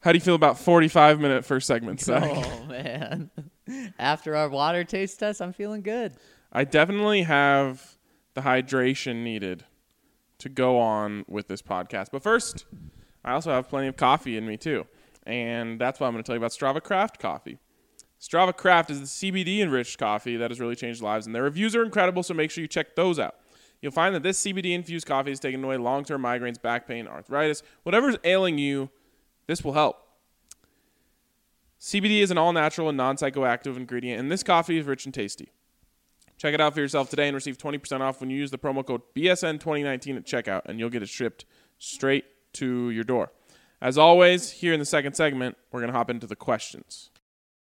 How do you feel about 45-minute first segment, Zach? Oh, man. After our water taste test, I'm feeling good. I definitely have the hydration needed to go on with this podcast. But first, I also have plenty of coffee in me, too. And that's why I'm going to tell you about Strava Craft coffee. Strava Craft is the CBD-enriched coffee that has really changed lives, and their reviews are incredible, so make sure you check those out. You'll find that this CBD-infused coffee has taken away long-term migraines, back pain, arthritis. Whatever's ailing you, this will help. CBD is an all-natural and non-psychoactive ingredient, and this coffee is rich and tasty. Check it out for yourself today and receive 20% off when you use the promo code BSN2019 at checkout, and you'll get it shipped straight to your door. As always, here in the second segment, we're going to hop into the questions.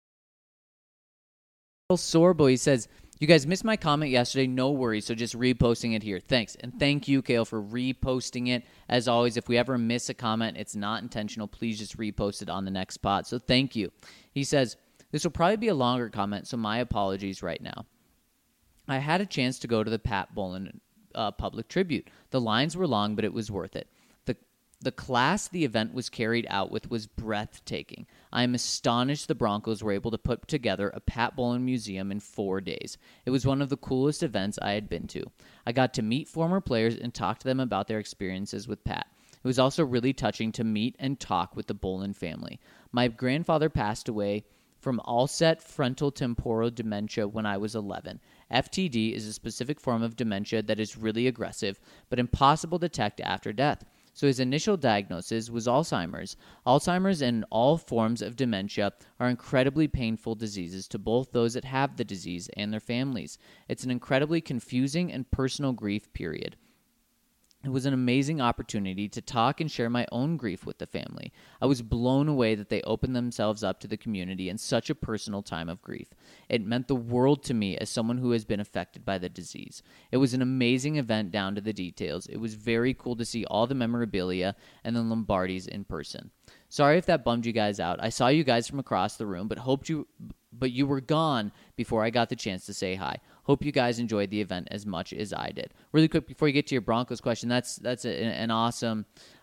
Sorbo, says, you guys missed my comment yesterday. No worries. So just reposting it here. Thanks. And thank you, Kale, for reposting it. As always, if we ever miss a comment, it's not intentional. Please just repost it on the next spot. So thank you. He says, this will probably be a longer comment, so my apologies right now. I had a chance to go to the Pat Bowlen public tribute. The lines were long, but it was worth it. The class the event was carried out with was breathtaking. I am astonished the Broncos were able to put together a Pat Bowlen museum in 4 days. It was one of the coolest events I had been to. I got to meet former players and talk to them about their experiences with Pat. It was also really touching to meet and talk with the Bowlen family. My grandfather passed away from all-set frontal temporal dementia when I was 11. FTD is a specific form of dementia that is really aggressive, but impossible to detect after death. So his initial diagnosis was Alzheimer's. Alzheimer's and all forms of dementia are incredibly painful diseases to both those that have the disease and their families. It's an incredibly confusing and personal grief period. It was an amazing opportunity to talk and share my own grief with the family. I was blown away that they opened themselves up to the community in such a personal time of grief. It meant the world to me as someone who has been affected by the disease. It was an amazing event down to the details. It was very cool to see all the memorabilia and the Lombardis in person. Sorry if that bummed you guys out. I saw you guys from across the room, but you were gone before I got the chance to say hi. Hope you guys enjoyed the event as much as I did. Really quick before you get to your Broncos question, that's an awesome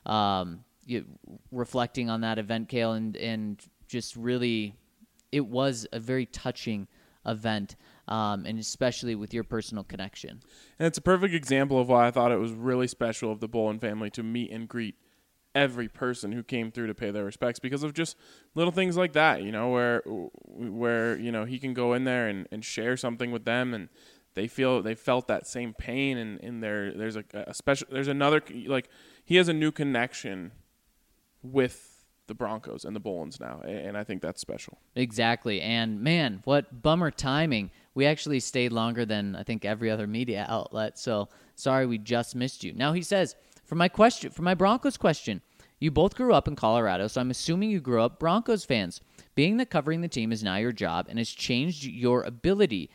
reflecting on that event, Kale, and just really, it was a very touching event, and especially with your personal connection. And it's a perfect example of why I thought it was really special of the Bowlen family to meet and greet every person who came through to pay their respects, because of just little things like that, where he can go in there and share something with them, and they felt that same pain, and there's a special, there's another, like, he has a new connection with the Broncos and the Bowlens now, and I think that's special. Exactly. And man, what bummer timing. We actually stayed longer than I think every other media outlet, so sorry we just missed you. Now he says, for my Broncos question, you both grew up in Colorado, so I'm assuming you grew up Broncos fans. Being that covering the team is now your job and has that changed your ability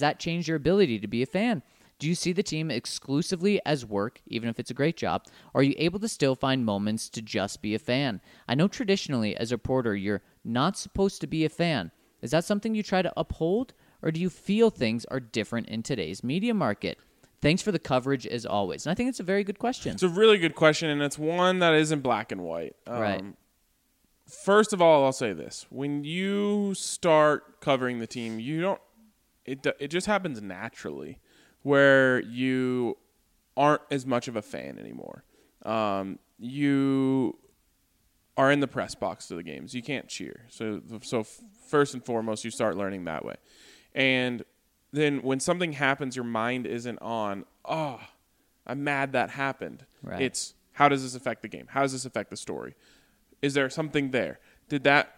to be a fan? Do you see the team exclusively as work, even if it's a great job? Or are you able to still find moments to just be a fan? I know traditionally, as a reporter, you're not supposed to be a fan. Is that something you try to uphold? Or do you feel things are different in today's media market? Thanks for the coverage, as always. And I think it's a very good question. It's a really good question, and it's one that isn't black and white. Right. First of all, I'll say this. When you start covering the team, it just happens naturally, where you aren't as much of a fan anymore. You are in the press box to the games. You can't cheer. So first and foremost, you start learning that way. And then when something happens, your mind isn't on, oh, I'm mad that happened. Right. It's, how does this affect the game? How does this affect the story? Is there something there? Did that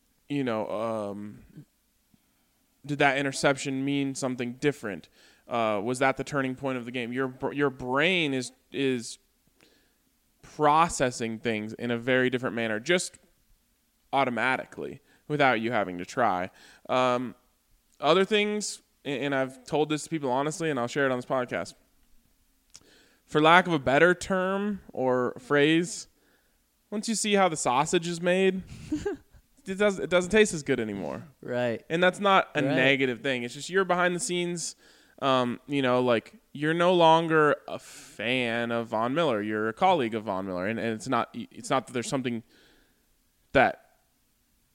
interception mean something different? Was that the turning point of the game? Your brain is processing things in a very different manner, just automatically, without you having to try. Other things, and I've told this to people honestly, and I'll share it on this podcast. For lack of a better term or phrase, once you see how the sausage is made, it doesn't taste as good anymore. Right. And that's not a negative thing. It's just you're behind the scenes. Like, you're no longer a fan of Von Miller. You're a colleague of Von Miller, and it's not that there's something that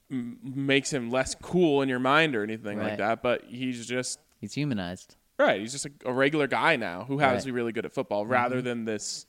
makes him less cool in your mind or anything like Right. that, but he's humanized. right. He's just a regular guy now who happens to Right. be really good at football, rather than this,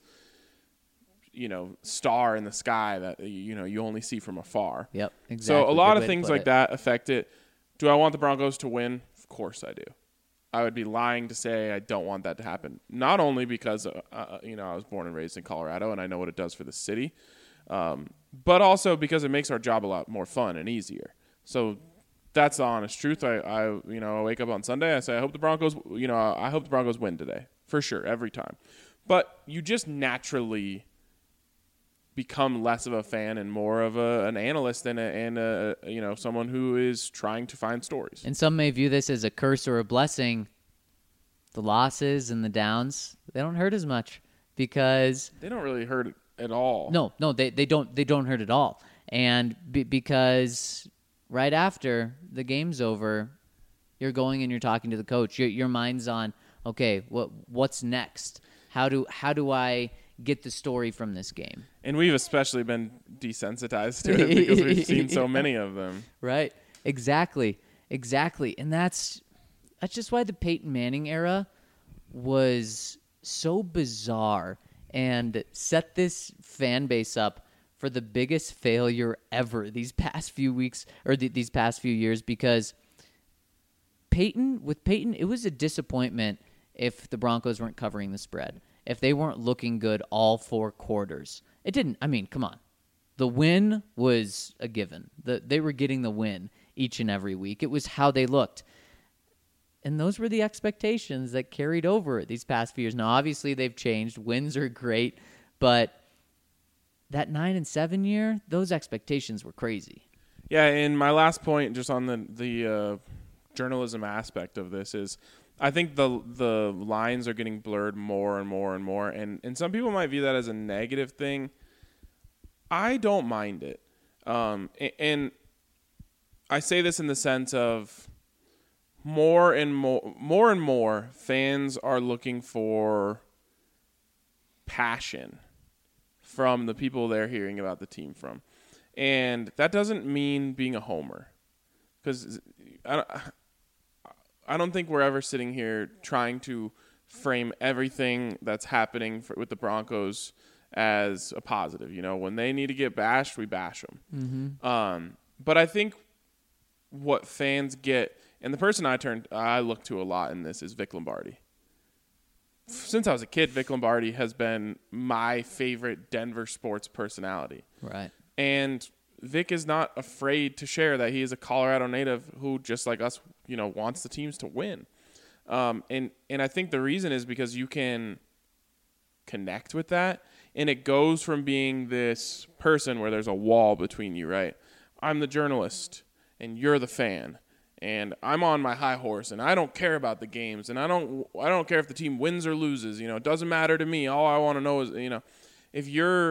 star in the sky that you only see from afar. Yep, exactly. So a lot Good of way to things put like it. that affect it. Do I want the Broncos to win? Of course I do. I would be lying to say I don't want that to happen. Not only because I was born and raised in Colorado and I know what it does for the city, but also because it makes our job a lot more fun and easier. So that's the honest truth. I wake up on Sunday, I say I hope the Broncos win today for sure every time. But you just naturally become less of a fan and more of an analyst and someone who is trying to find stories. And some may view this as a curse or a blessing. The losses and the downs, they don't hurt as much because They don't really hurt it at all. no, they don't hurt at all. And because right after the game's over, you're going and you're talking to the coach. Your mind's on, okay, what's next? How do I get the story from this game? And we've especially been desensitized to it because we've seen so many of them. Right. Exactly. And that's just why the Peyton Manning era was so bizarre and set this fan base up for the biggest failure ever these past few weeks or these past few years, because with Peyton, it was a disappointment if the Broncos weren't covering the spread, if they weren't looking good all 4 quarters. It didn't. I mean, come on. The win was a given. They were getting the win each and every week. It was how they looked. And those were the expectations that carried over these past few years. Now, obviously, they've changed. Wins are great. But that 9-7 year, those expectations were crazy. Yeah, and my last point just on the journalism aspect of this is I think the lines are getting blurred more and more and more. And some people might view that as a negative thing. I don't mind it. And I say this in the sense of more and more fans are looking for passion from the people they're hearing about the team from. And that doesn't mean being a homer. Because I don't think we're ever sitting here trying to frame everything that's happening with the Broncos as a positive. When they need to get bashed, we bash them. Mm-hmm. But I think what fans get, and the person I look to a lot in this is Vic Lombardi. Since I was a kid, Vic Lombardi has been my favorite Denver sports personality. Right. And Vic is not afraid to share that he is a Colorado native who, just like us, wants the teams to win. And I think the reason is because you can connect with that, and it goes from being this person where there's a wall between you, right? I'm the journalist, and you're the fan, and I'm on my high horse, and I don't care about the games, and I don't care if the team wins or loses. It doesn't matter to me. All I want to know is, if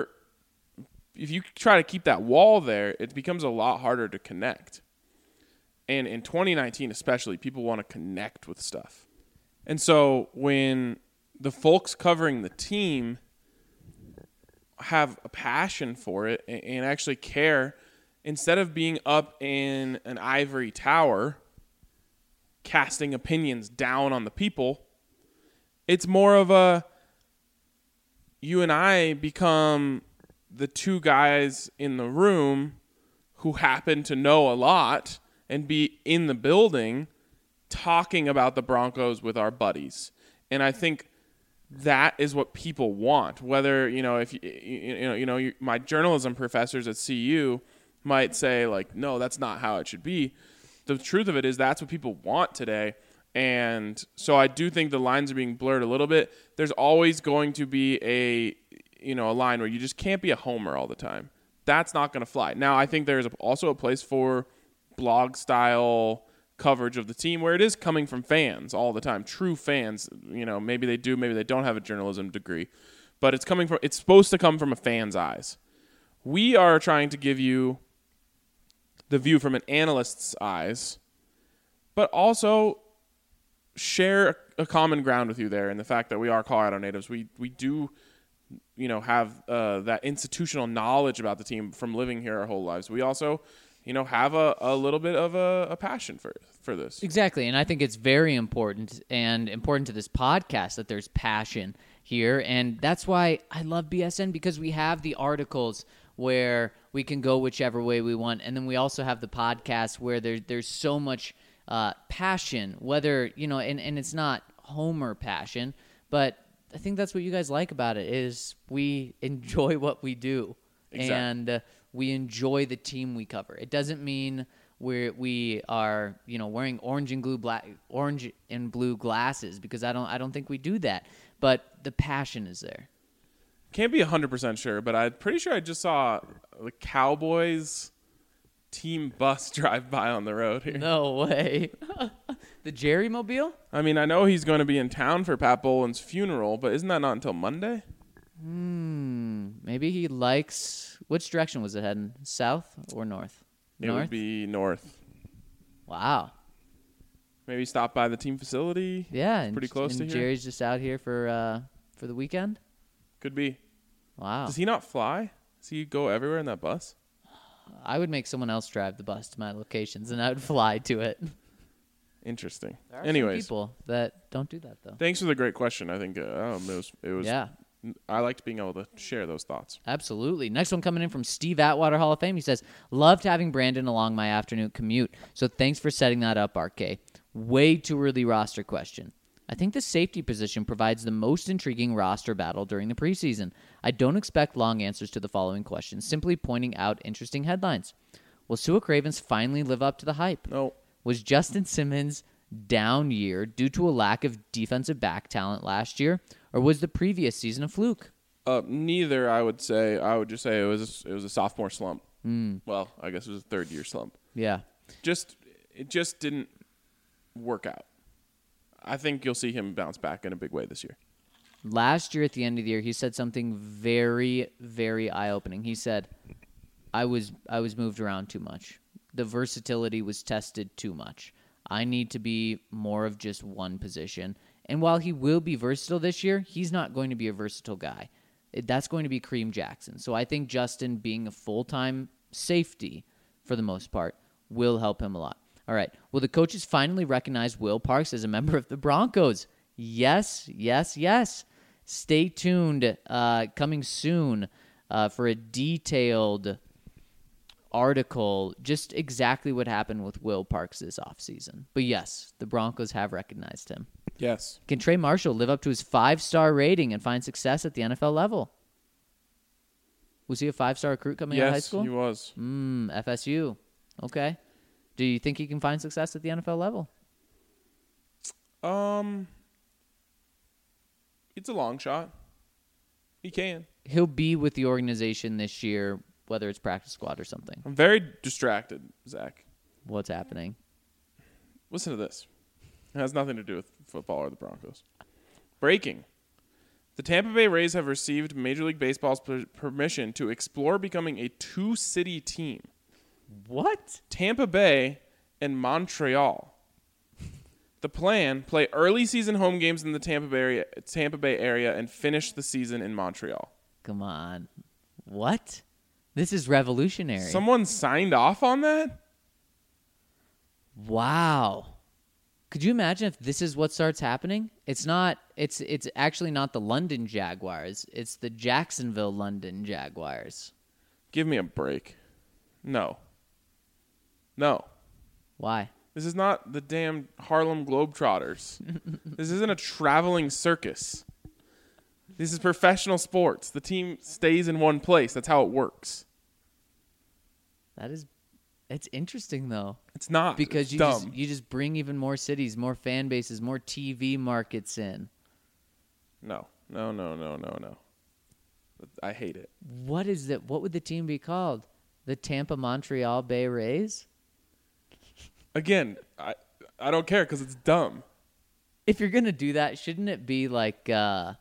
you try to keep that wall there, it becomes a lot harder to connect. And in 2019 especially, people want to connect with stuff. And so when the folks covering the team have a passion for it and actually care, instead of being up in an ivory tower casting opinions down on the people, it's more of a you and I become the two guys in the room who happen to know a lot and be in the building talking about the Broncos with our buddies. And I think that is what people want. Whether, if my journalism professors at CU might say like, no, that's not how it should be. The truth of it is that's what people want today. And so I do think the lines are being blurred a little bit. There's always going to be a line where you just can't be a homer all the time. That's not going to fly. Now, I think there's also a place for blog style coverage of the team where it is coming from fans all the time, true fans. Maybe they do, maybe they don't have a journalism degree, but it's supposed to come from a fan's eyes. We are trying to give you the view from an analyst's eyes, but also share a common ground with you there in the fact that we are Colorado natives. We do have that institutional knowledge about the team from living here our whole lives. We also have a little bit of a passion for this. Exactly, and I think it's very important and important to this podcast that there's passion here, and that's why I love BSN, because we have the articles where we can go whichever way we want, and then we also have the podcast where there's so much passion, whether, and it's not Homer passion, but I think that's what you guys like about it, is we enjoy what we do. Exactly. And we enjoy the team we cover. It doesn't mean we are wearing orange and blue glasses, because I don't think we do that. But the passion is there. Can't be 100% sure, but I'm pretty sure I just saw the Cowboys team bus drive by on the road here. No way. The Jerry Mobile? I mean, I know he's going to be in town for Pat Boland's funeral, but isn't that not until Monday? Maybe he likes. Which direction was it heading? South or north? It would be north. Wow. Maybe stop by the team facility. Yeah, It's pretty close to here. Jerry's just out here for the weekend. Could be. Wow. Does he not fly? Does he go everywhere in that bus? I would make someone else drive the bus to my locations, and I would fly to it. Interesting. There are some Anyways, people that don't do that, though. thanks for the great question. I think it was. Yeah. I liked being able to share those thoughts. Absolutely. Next one coming in from Steve Atwater, Hall of Fame. He says, loved having Brandon along my afternoon commute, so thanks for setting that up, RK. Way too early roster question. I think the safety position provides the most intriguing roster battle during the preseason. I don't expect long answers to the following questions, simply pointing out interesting headlines. Will Su'a Cravens finally live up to the hype? No. Was Justin Simmons' down year due to a lack of defensive back talent last year, or was the previous season a fluke? Neither, I would say. I would just say it was a sophomore slump. Well, I guess it was a third-year slump. Yeah. It just didn't work out. I think you'll see him bounce back in a big way this year. Last year at the end of the year, he said something very, very eye-opening. He said, I was moved around too much. The versatility was tested too much. I need to be more of just one position. And while he will be versatile this year, he's not going to be a versatile guy. That's going to be Kareem Jackson. So I think Justin being a full-time safety, for the most part, will help him a lot. All right. Will the coaches finally recognize Will Parks as a member of the Broncos? Yes, yes, yes. Stay tuned. Coming soon for a detailed article, just exactly what happened with Will Parks this offseason. But yes, the Broncos have recognized him. Yes. Can Trey Marshall live up to his 5-star rating and find success at the NFL level? Was he a 5-star recruit coming out of high school? Yes, he was. FSU. Okay. Do you think he can find success at the NFL level? It's a long shot. He can. He'll be with the organization this year, whether it's practice squad or something. I'm very distracted, Zach. What's happening? Listen to this. It has nothing to do with football or the Broncos. Breaking. The Tampa Bay Rays have received Major League Baseball's permission to explore becoming a 2-city team. What? Tampa Bay and Montreal. The plan, play early season home games in the Tampa Bay area and finish the season in Montreal. Come on. What? This is revolutionary. Someone signed off on that? Wow. Could you imagine if this is what starts happening? It's actually not the London Jaguars. It's the Jacksonville London Jaguars. Give me a break. No. Why? This is not the damn Harlem Globetrotters. This isn't a traveling circus. This is professional sports. The team stays in one place. That's how it works. It's interesting though. It's not. Because it's you just bring even more cities, more fan bases, more TV markets in. No. I hate it. What is that? What would the team be called? The Tampa Montreal Bay Rays? Again, I don't care because it's dumb. If you're going to do that, shouldn't it be like the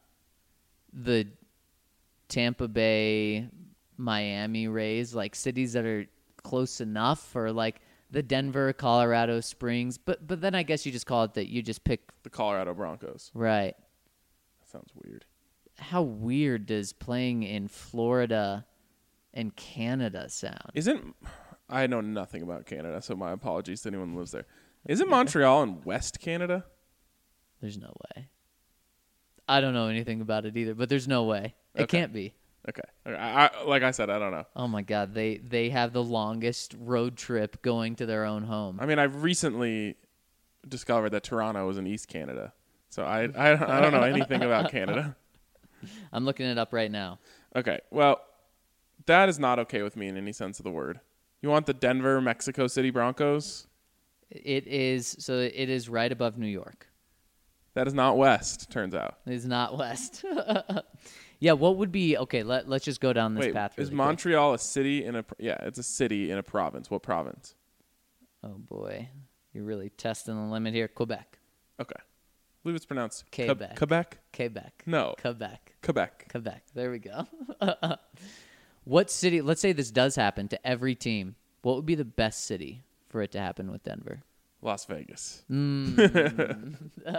Tampa Bay Miami Rays, like cities that are close enough, or like the Denver, Colorado Springs? But then I guess you just call it that you just pick The Colorado Broncos. right. That sounds weird. How weird does playing in Florida and Canada sound? I know nothing about Canada, so my apologies to anyone who lives there. Isn't Montreal in West Canada? There's no way. I don't know anything about it either, but there's no way. It Okay. can't be. Okay. Like I said, I don't know. Oh my God, they have the longest road trip going to their own home. I mean, I've recently discovered that Toronto is in East Canada, so I don't know anything about Canada. I'm looking it up right now. Okay, well, that is not okay with me in any sense of the word. You want the Denver, Mexico City Broncos? It is right above New York. That is not West, turns out. It is not west. Yeah, what would be okay? Let's just go down this Wait, path. is really quick. Montreal a city in a? Yeah, it's a city in a province. What province? Oh boy, you're really testing the limit here. Quebec. Okay, I believe it's pronounced Quebec. Quebec. Quebec. No, Quebec. Quebec. Quebec. There we go. What city? Let's say this does happen to every team. What would be the best city for it to happen with Denver? Las Vegas. Mm.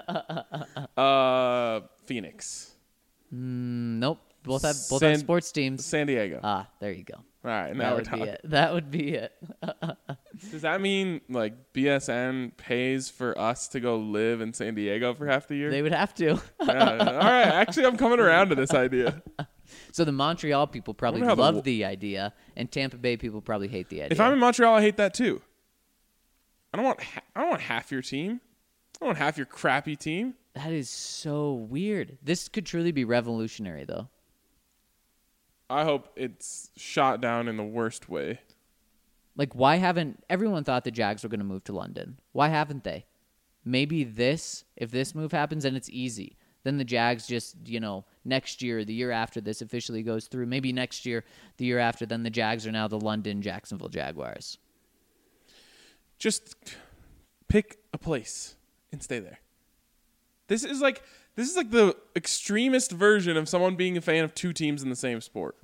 Phoenix. Nope. Both have San- sports teams. San Diego. All There you go. right, now That we're would be talking. it. That would be it. Does that mean like BSN pays for us to go live in San Diego for half the year? They would have to. All right, actually, I'm coming around to this idea. So the Montreal people probably wonder how love the idea, and Tampa Bay people probably hate the idea. If I'm in Montreal, I hate that too. I don't want half your team. I don't want half your crappy team. That is so weird. This could truly be revolutionary, though. I hope it's shot down in the worst way. Like, why haven't everyone thought the Jags were going to move to London? Why haven't they? Maybe if this move happens, then it's easy. Then the Jags just, next year, the year after this officially goes through, maybe next year, the year after, then the Jags are now the London Jacksonville Jaguars. Just pick a place and stay there. This is like the extremist version of someone being a fan of two teams in the same sport.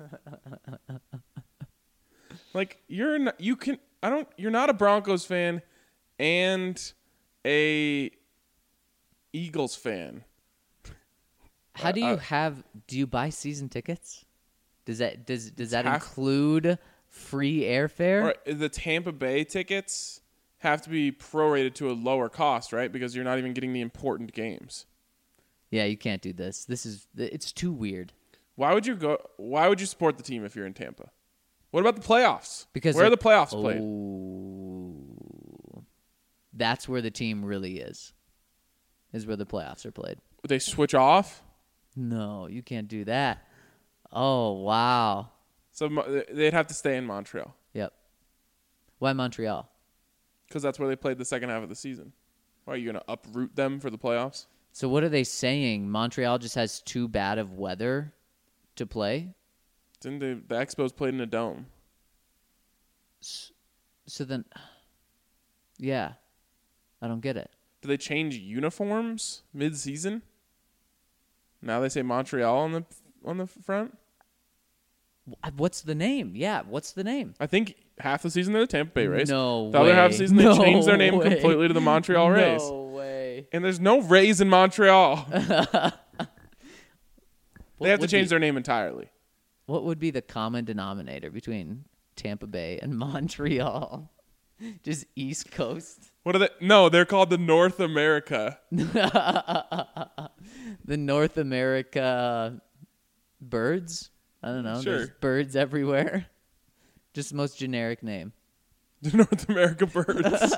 Like you're not a Broncos fan and a Eagles fan. How do you buy season tickets? Does that half- include free airfare? Or the Tampa Bay tickets have to be prorated to a lower cost, right? Because you're not even getting the important games. Yeah, you can't do this. It's too weird. Why would you support the team if you're in Tampa? What about the playoffs? Because where are the playoffs played? Oh, that's where the team really is where the playoffs are played. Would they switch off? No, you can't do that. Oh, wow. So they'd have to stay in Montreal Yep. Why Montreal? because that's where they played the second half of the season. Why are you going to uproot them for the playoffs? So what are they saying? Montreal just has too bad of weather to play? Didn't the Expos played in a dome? So then, yeah, I don't get it. Did they change uniforms mid-season? Now they say Montreal on the front. What's the name? Yeah, what's the name? I think half the season they're the Tampa Bay Rays. No The other half of the season they No changed their name way. completely to the Montreal Rays. No way. And there's no Rays in Montreal. They have to would change be- their name entirely. What would be the common denominator between Tampa Bay and Montreal? Just East Coast. What are they? No, they're called the North America. The North America birds? I don't know. Sure. There's birds everywhere. Just the most generic name. The North America Birds.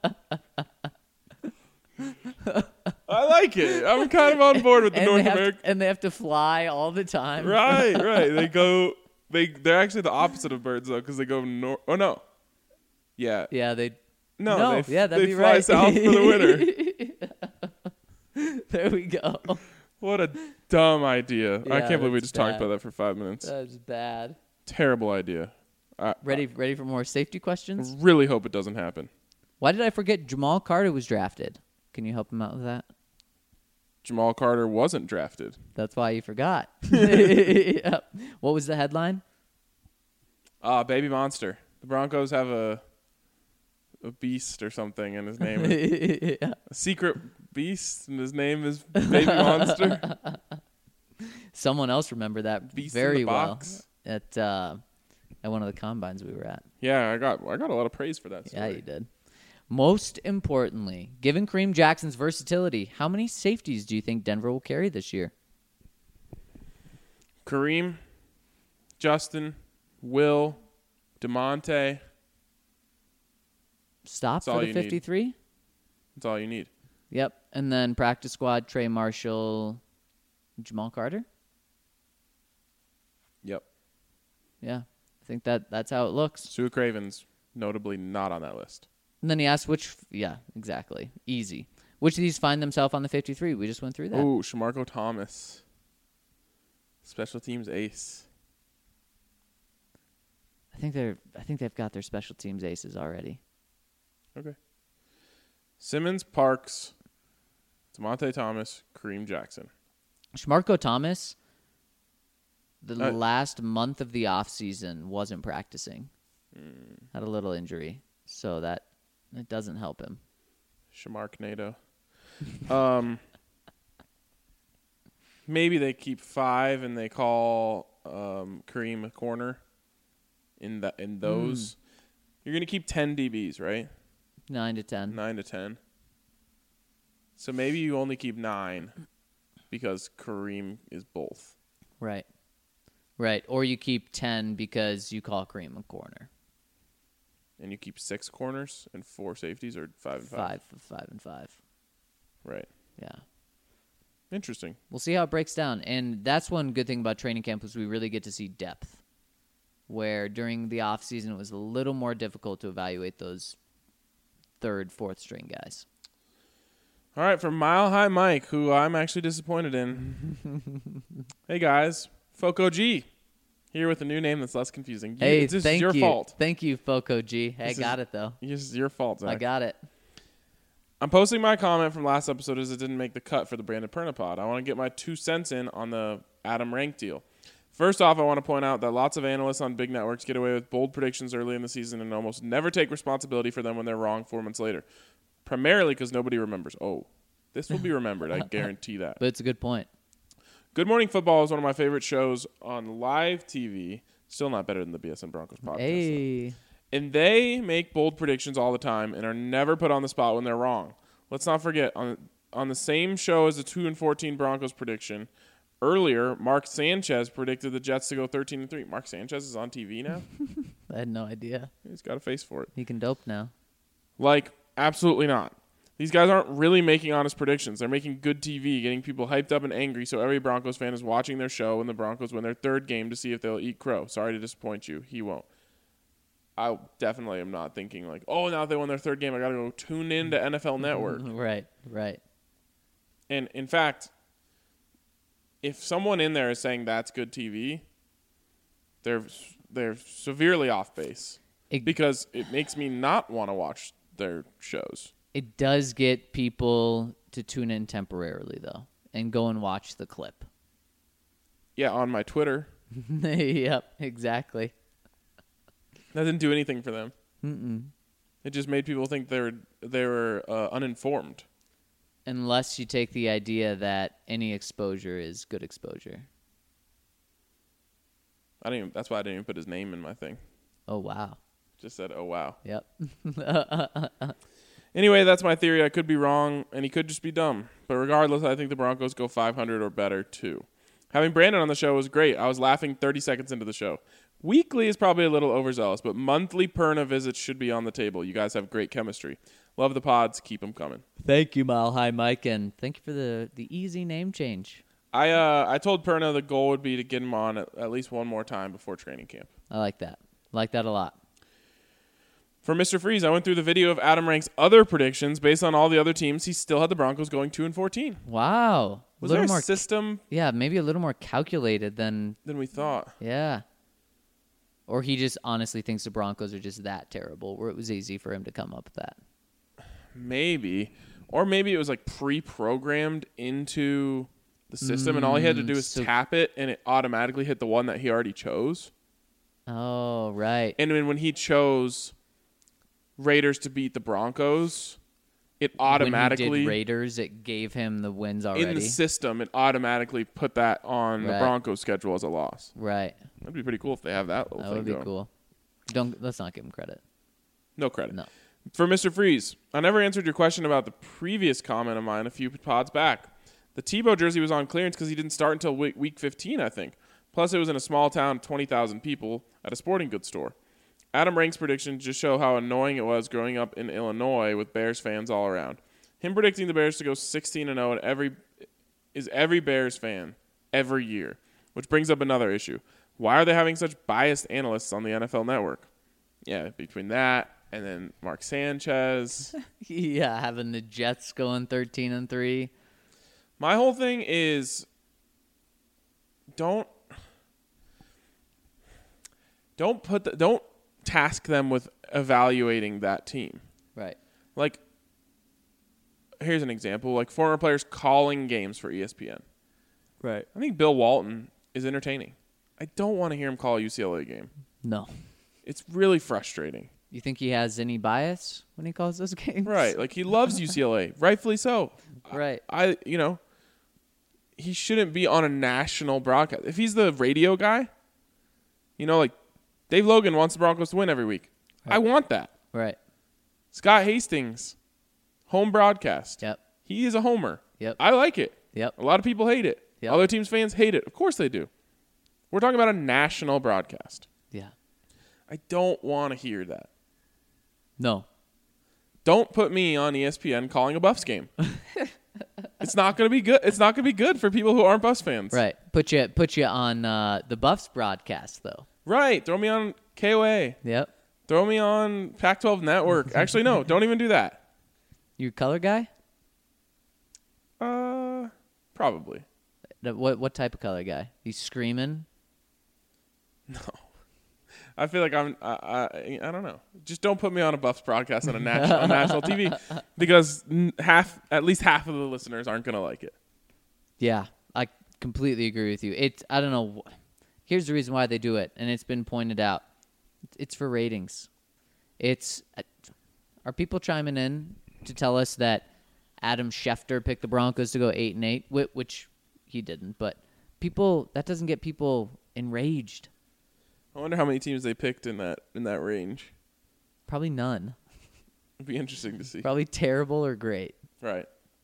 I like it. I'm kind of on board with the North America. And they have to fly all the time. Right. They're actually the opposite of birds though, because they go north. Oh no. Yeah. Yeah, they. No. That'd they be fly right. south for the winter. There we go. What a dumb idea. I Yeah, can't believe we that's just talked bad. about that for 5 minutes. That's bad. Terrible idea. Ready for more safety questions? Really hope it doesn't happen. Why did I forget Jamal Carter was drafted? Can you help him out with that? Jamal Carter wasn't drafted. That's why you forgot. Yep. What was the headline? Baby Monster. The Broncos have a beast or something, and his name is Yeah. a secret beast, and his name is Baby Monster. Someone else remember that Beast in very the well. box. at one of the combines we were at. Yeah, I got a lot of praise for that story. Yeah, you did. Most importantly, given Kareem Jackson's versatility, how many safeties do you think Denver will carry this year? Kareem, Justin, Will, DeMonte. Stop That's all for the you need. 53? That's all you need. Yep. And then practice squad, Trey Marshall, Jamal Carter? Yep. Yeah. I think that's how it looks. Sue Craven's notably not on that list. And then he asked yeah, exactly. Easy. Which of these find themselves on the 53? We just went through that. Ooh, Shamarko Thomas. Special teams ace. I think they've got their special teams aces already. Okay. Simmons, Parks, DeMonte Thomas, Kareem Jackson. Shamarko Thomas, the last month of the offseason, wasn't practicing. Had a little injury, so that it doesn't help him. Shamarknado. Maybe they keep 5 and they call Kareem a corner in those. You're going to keep 10 DBs, right? 9 to 10. 9 to 10. So maybe you only keep 9 because Kareem is both. Right. Or you keep 10 because you call Kareem a corner. And you keep 6 corners and 4 safeties, or 5 and 5? 5 and 5. Right. Yeah. Interesting. We'll see how it breaks down. And that's one good thing about training camp is we really get to see depth. Where during the off season it was a little more difficult to evaluate those 3rd, 4th string guys. All right, from Mile High Mike, who I'm actually disappointed in. Hey, guys. Foco G. Here with a new name that's less confusing. Hey, this thank is your you. fault. Thank you, Foco G. Hey, I This got it, though. This is your fault, Zach. I got it. I'm posting my comment from last episode as it didn't make the cut for the Brandon Perna pod. I want to get my 2 cents in on the Adam Rank deal. First off, I want to point out that lots of analysts on big networks get away with bold predictions early in the season and almost never take responsibility for them when they're wrong 4 months later. Primarily because nobody remembers. Oh, this will be remembered. I guarantee that. But it's a good point. Good Morning Football is one of my favorite shows on live TV. Still not better than the BSN Broncos podcast. Hey. Though. And they make bold predictions all the time and are never put on the spot when they're wrong. Let's not forget, on the same show as the 2-14 Broncos prediction, earlier, Mark Sanchez predicted the Jets to go 13-3. Mark Sanchez is on TV now? I had no idea. He's got a face for it. He can dope now. Like, absolutely not. These guys aren't really making honest predictions. They're making good TV, getting people hyped up and angry so every Broncos fan is watching their show when the Broncos win their 3rd game to see if they'll eat crow. Sorry to disappoint you. He won't. I definitely am not thinking like, oh, now they won their 3rd game, I got to go tune in to NFL Network. Right. And, in fact, if someone in there is saying that's good TV, they're severely off base because it makes me not want to watch their shows. It does get people to tune in temporarily, though, and go and watch the clip. Yeah, on my Twitter. Yep, exactly. That didn't do anything for them. Mm-mm. It just made people think they were uninformed. Unless you take the idea that any exposure is good exposure. That's why I didn't even put his name in my thing. Oh, wow. Just said, oh, wow. Yep. Anyway, that's my theory. I could be wrong, and he could just be dumb. But regardless, I think the Broncos go 500 or better, too. Having Brandon on the show was great. I was laughing 30 seconds into the show. Weekly is probably a little overzealous, but monthly Perna visits should be on the table. You guys have great chemistry. Love the pods. Keep them coming. Thank you, Mile High Mike, and thank you for the easy name change. I told Perna the goal would be to get him on at least one more time before training camp. I like that. Like that a lot. For Mr. Freeze, I went through the video of Adam Rank's other predictions. Based on all the other teams, he still had the Broncos going 2-14. Wow. Was there a system? Yeah, maybe a little more calculated than we thought. Yeah. Or he just honestly thinks the Broncos are just that terrible, where it was easy for him to come up with that. Maybe. Or maybe it was like pre-programmed into the system, and all he had to do was tap it, and it automatically hit the one that he already chose. Oh, right. And then when he chose Raiders to beat the Broncos, it when automatically he did Raiders, it gave him the wins already. in the system, it automatically put that on the Right. Broncos schedule as a loss. Right. That'd be pretty cool if they have that little That thing would be going. cool. Let's not give him credit. No credit. No. For Mr. Freeze, I never answered your question about the previous comment of mine a few pods back. The Tebow jersey was on clearance because he didn't start until week 15, I think. Plus, it was in a small town, 20,000 people, at a sporting goods store. Adam Rank's predictions just show how annoying it was growing up in Illinois with Bears fans all around. Him predicting the Bears to go 16-0 and every Bears fan every year, which brings up another issue. Why are they having such biased analysts on the NFL Network? Yeah, between that and then Mark Sanchez. Yeah, having the Jets going 13-3. My whole thing is don't task them with evaluating that team. Right. Like, here's an example. Like, former players calling games for ESPN. Right. I think Bill Walton is entertaining. I don't want to hear him call a UCLA game. No. It's really frustrating. You think he has any bias when he calls those games? Right. Like, he loves UCLA. Rightfully so. Right. He shouldn't be on a national broadcast. If he's the radio guy, like Dave Logan wants the Broncos to win every week. Right. I want that. Right. Scott Hastings, home broadcast. Yep. He is a homer. Yep. I like it. Yep. A lot of people hate it. Yep. Other teams' fans hate it. Of course they do. We're talking about a national broadcast. Yeah. I don't want to hear that. No. Don't put me on ESPN calling a Buffs game. It's not going to be good. It's not going to be good for people who aren't Buffs fans. Right. Put you on the Buffs broadcast though. Right. Throw me on KOA. Yep. Throw me on Pac-12 Network. Actually, no. Don't even do that. You a color guy? Probably. What type of color guy? He's screaming. No. I feel like I don't know. Just don't put me on a Buffs broadcast on a national TV because at least half of the listeners aren't going to like it. Yeah, I completely agree with you. I don't know. Here's the reason why they do it, and it's been pointed out. It's for ratings. Are people chiming in to tell us that Adam Schefter picked the Broncos to go 8-8, which he didn't, but that doesn't get people enraged. I wonder how many teams they picked in that range. Probably none. It'd be interesting to see. Probably terrible or great. Right.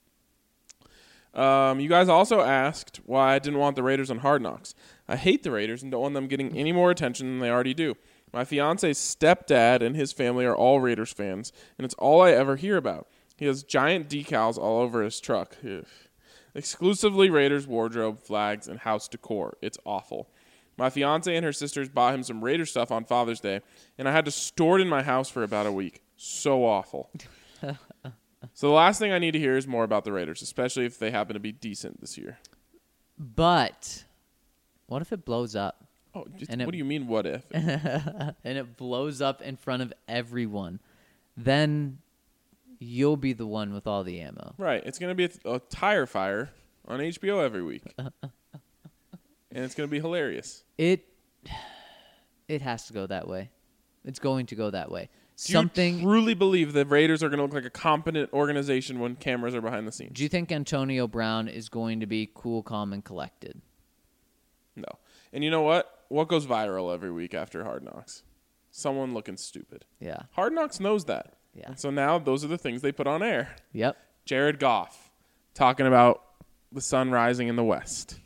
You guys also asked why I didn't want the Raiders on Hard Knocks. I hate the Raiders and don't want them getting any more attention than they already do. My fiance's stepdad and his family are all Raiders fans, and it's all I ever hear about. He has giant decals all over his truck. Ugh. Exclusively Raiders wardrobe, flags, and house decor. It's awful. My fiance and her sisters bought him some Raider stuff on Father's Day, and I had to store it in my house for about a week. So awful. So the last thing I need to hear is more about the Raiders, especially if they happen to be decent this year. But what if it blows up? Oh, And what do you mean, what if? And it blows up in front of everyone? Then you'll be the one with all the ammo. Right. It's going to be a tire fire on HBO every week. And it's going to be hilarious. It has to go that way. It's going to go that way. Do you truly believe the Raiders are going to look like a competent organization when cameras are behind the scenes? Do you think Antonio Brown is going to be cool, calm, and collected? No. And you know what? What goes viral every week after Hard Knocks? Someone looking stupid. Yeah. Hard Knocks knows that. Yeah. And so now those are the things they put on air. Yep. Jared Goff talking about the sun rising in the west.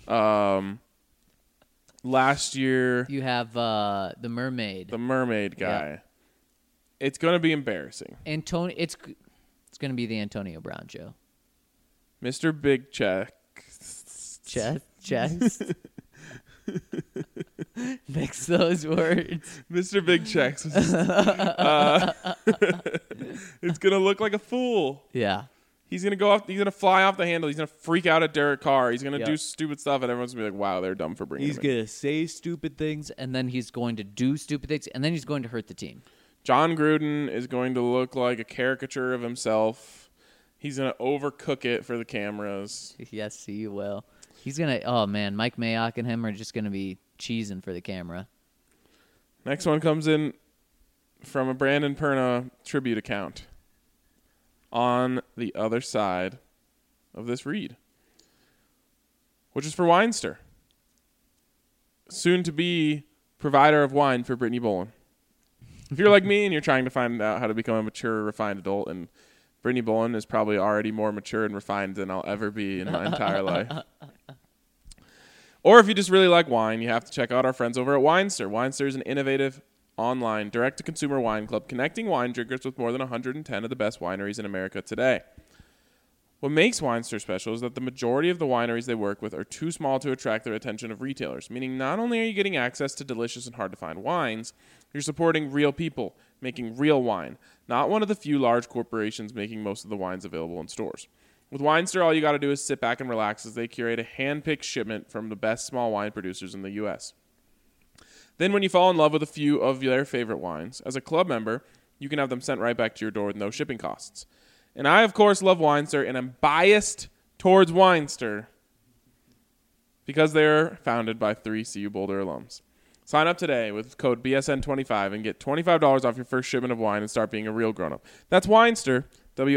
Last year, You have the mermaid. the mermaid guy. Yeah. It's going to be embarrassing. It's going to be the Antonio Brown show. Mr. Big Check. Chest. Mix those words. Mr. Big Checks. It's going to look like a fool. Yeah. He's going to go off. He's going to fly off the handle. He's going to freak out at Derek Carr. He's going to Yep. do stupid stuff, and everyone's going to be like, wow, they're dumb for bringing him in. to say stupid things, and then he's going to do stupid things, and then he's going to hurt the team. John Gruden is going to look like a caricature of himself. He's going to overcook it for the cameras. Yes, he will. He's going to, oh, man, Mike Mayock and him are just going to be cheesing for the camera. Next one comes in from a Brandon Perna tribute account. on the other side of this read, which is for Winester, soon to be provider of wine for Brittany Bolin. If you're like me and you're trying to find out how to become a mature, refined adult, and Brittany Bolin is probably already more mature and refined than I'll ever be in my entire life. Or if you just really like wine, you have to check out our friends over at Winester. Winester is an innovative online direct-to-consumer wine club connecting wine drinkers with more than 110 of the best wineries in America today. What makes Winester special is that the majority of the wineries they work with are too small to attract the attention of retailers, meaning not only are you getting access to delicious and hard-to-find wines, you're supporting real people making real wine, not one of the few large corporations making most of the wines available in stores. With Winester, all you got to do is sit back and relax as they curate a hand-picked shipment from the best small wine producers in the U.S. Then when you fall in love with a few of their favorite wines, as a club member, you can have them sent right back to your door with no shipping costs. And I, of course, love Winester, and I'm biased towards Winester because they're founded by 3 CU Boulder alums. Sign up today with code BSN25 and get $25 off your first shipment of wine and start being a real grown-up. That's Winester,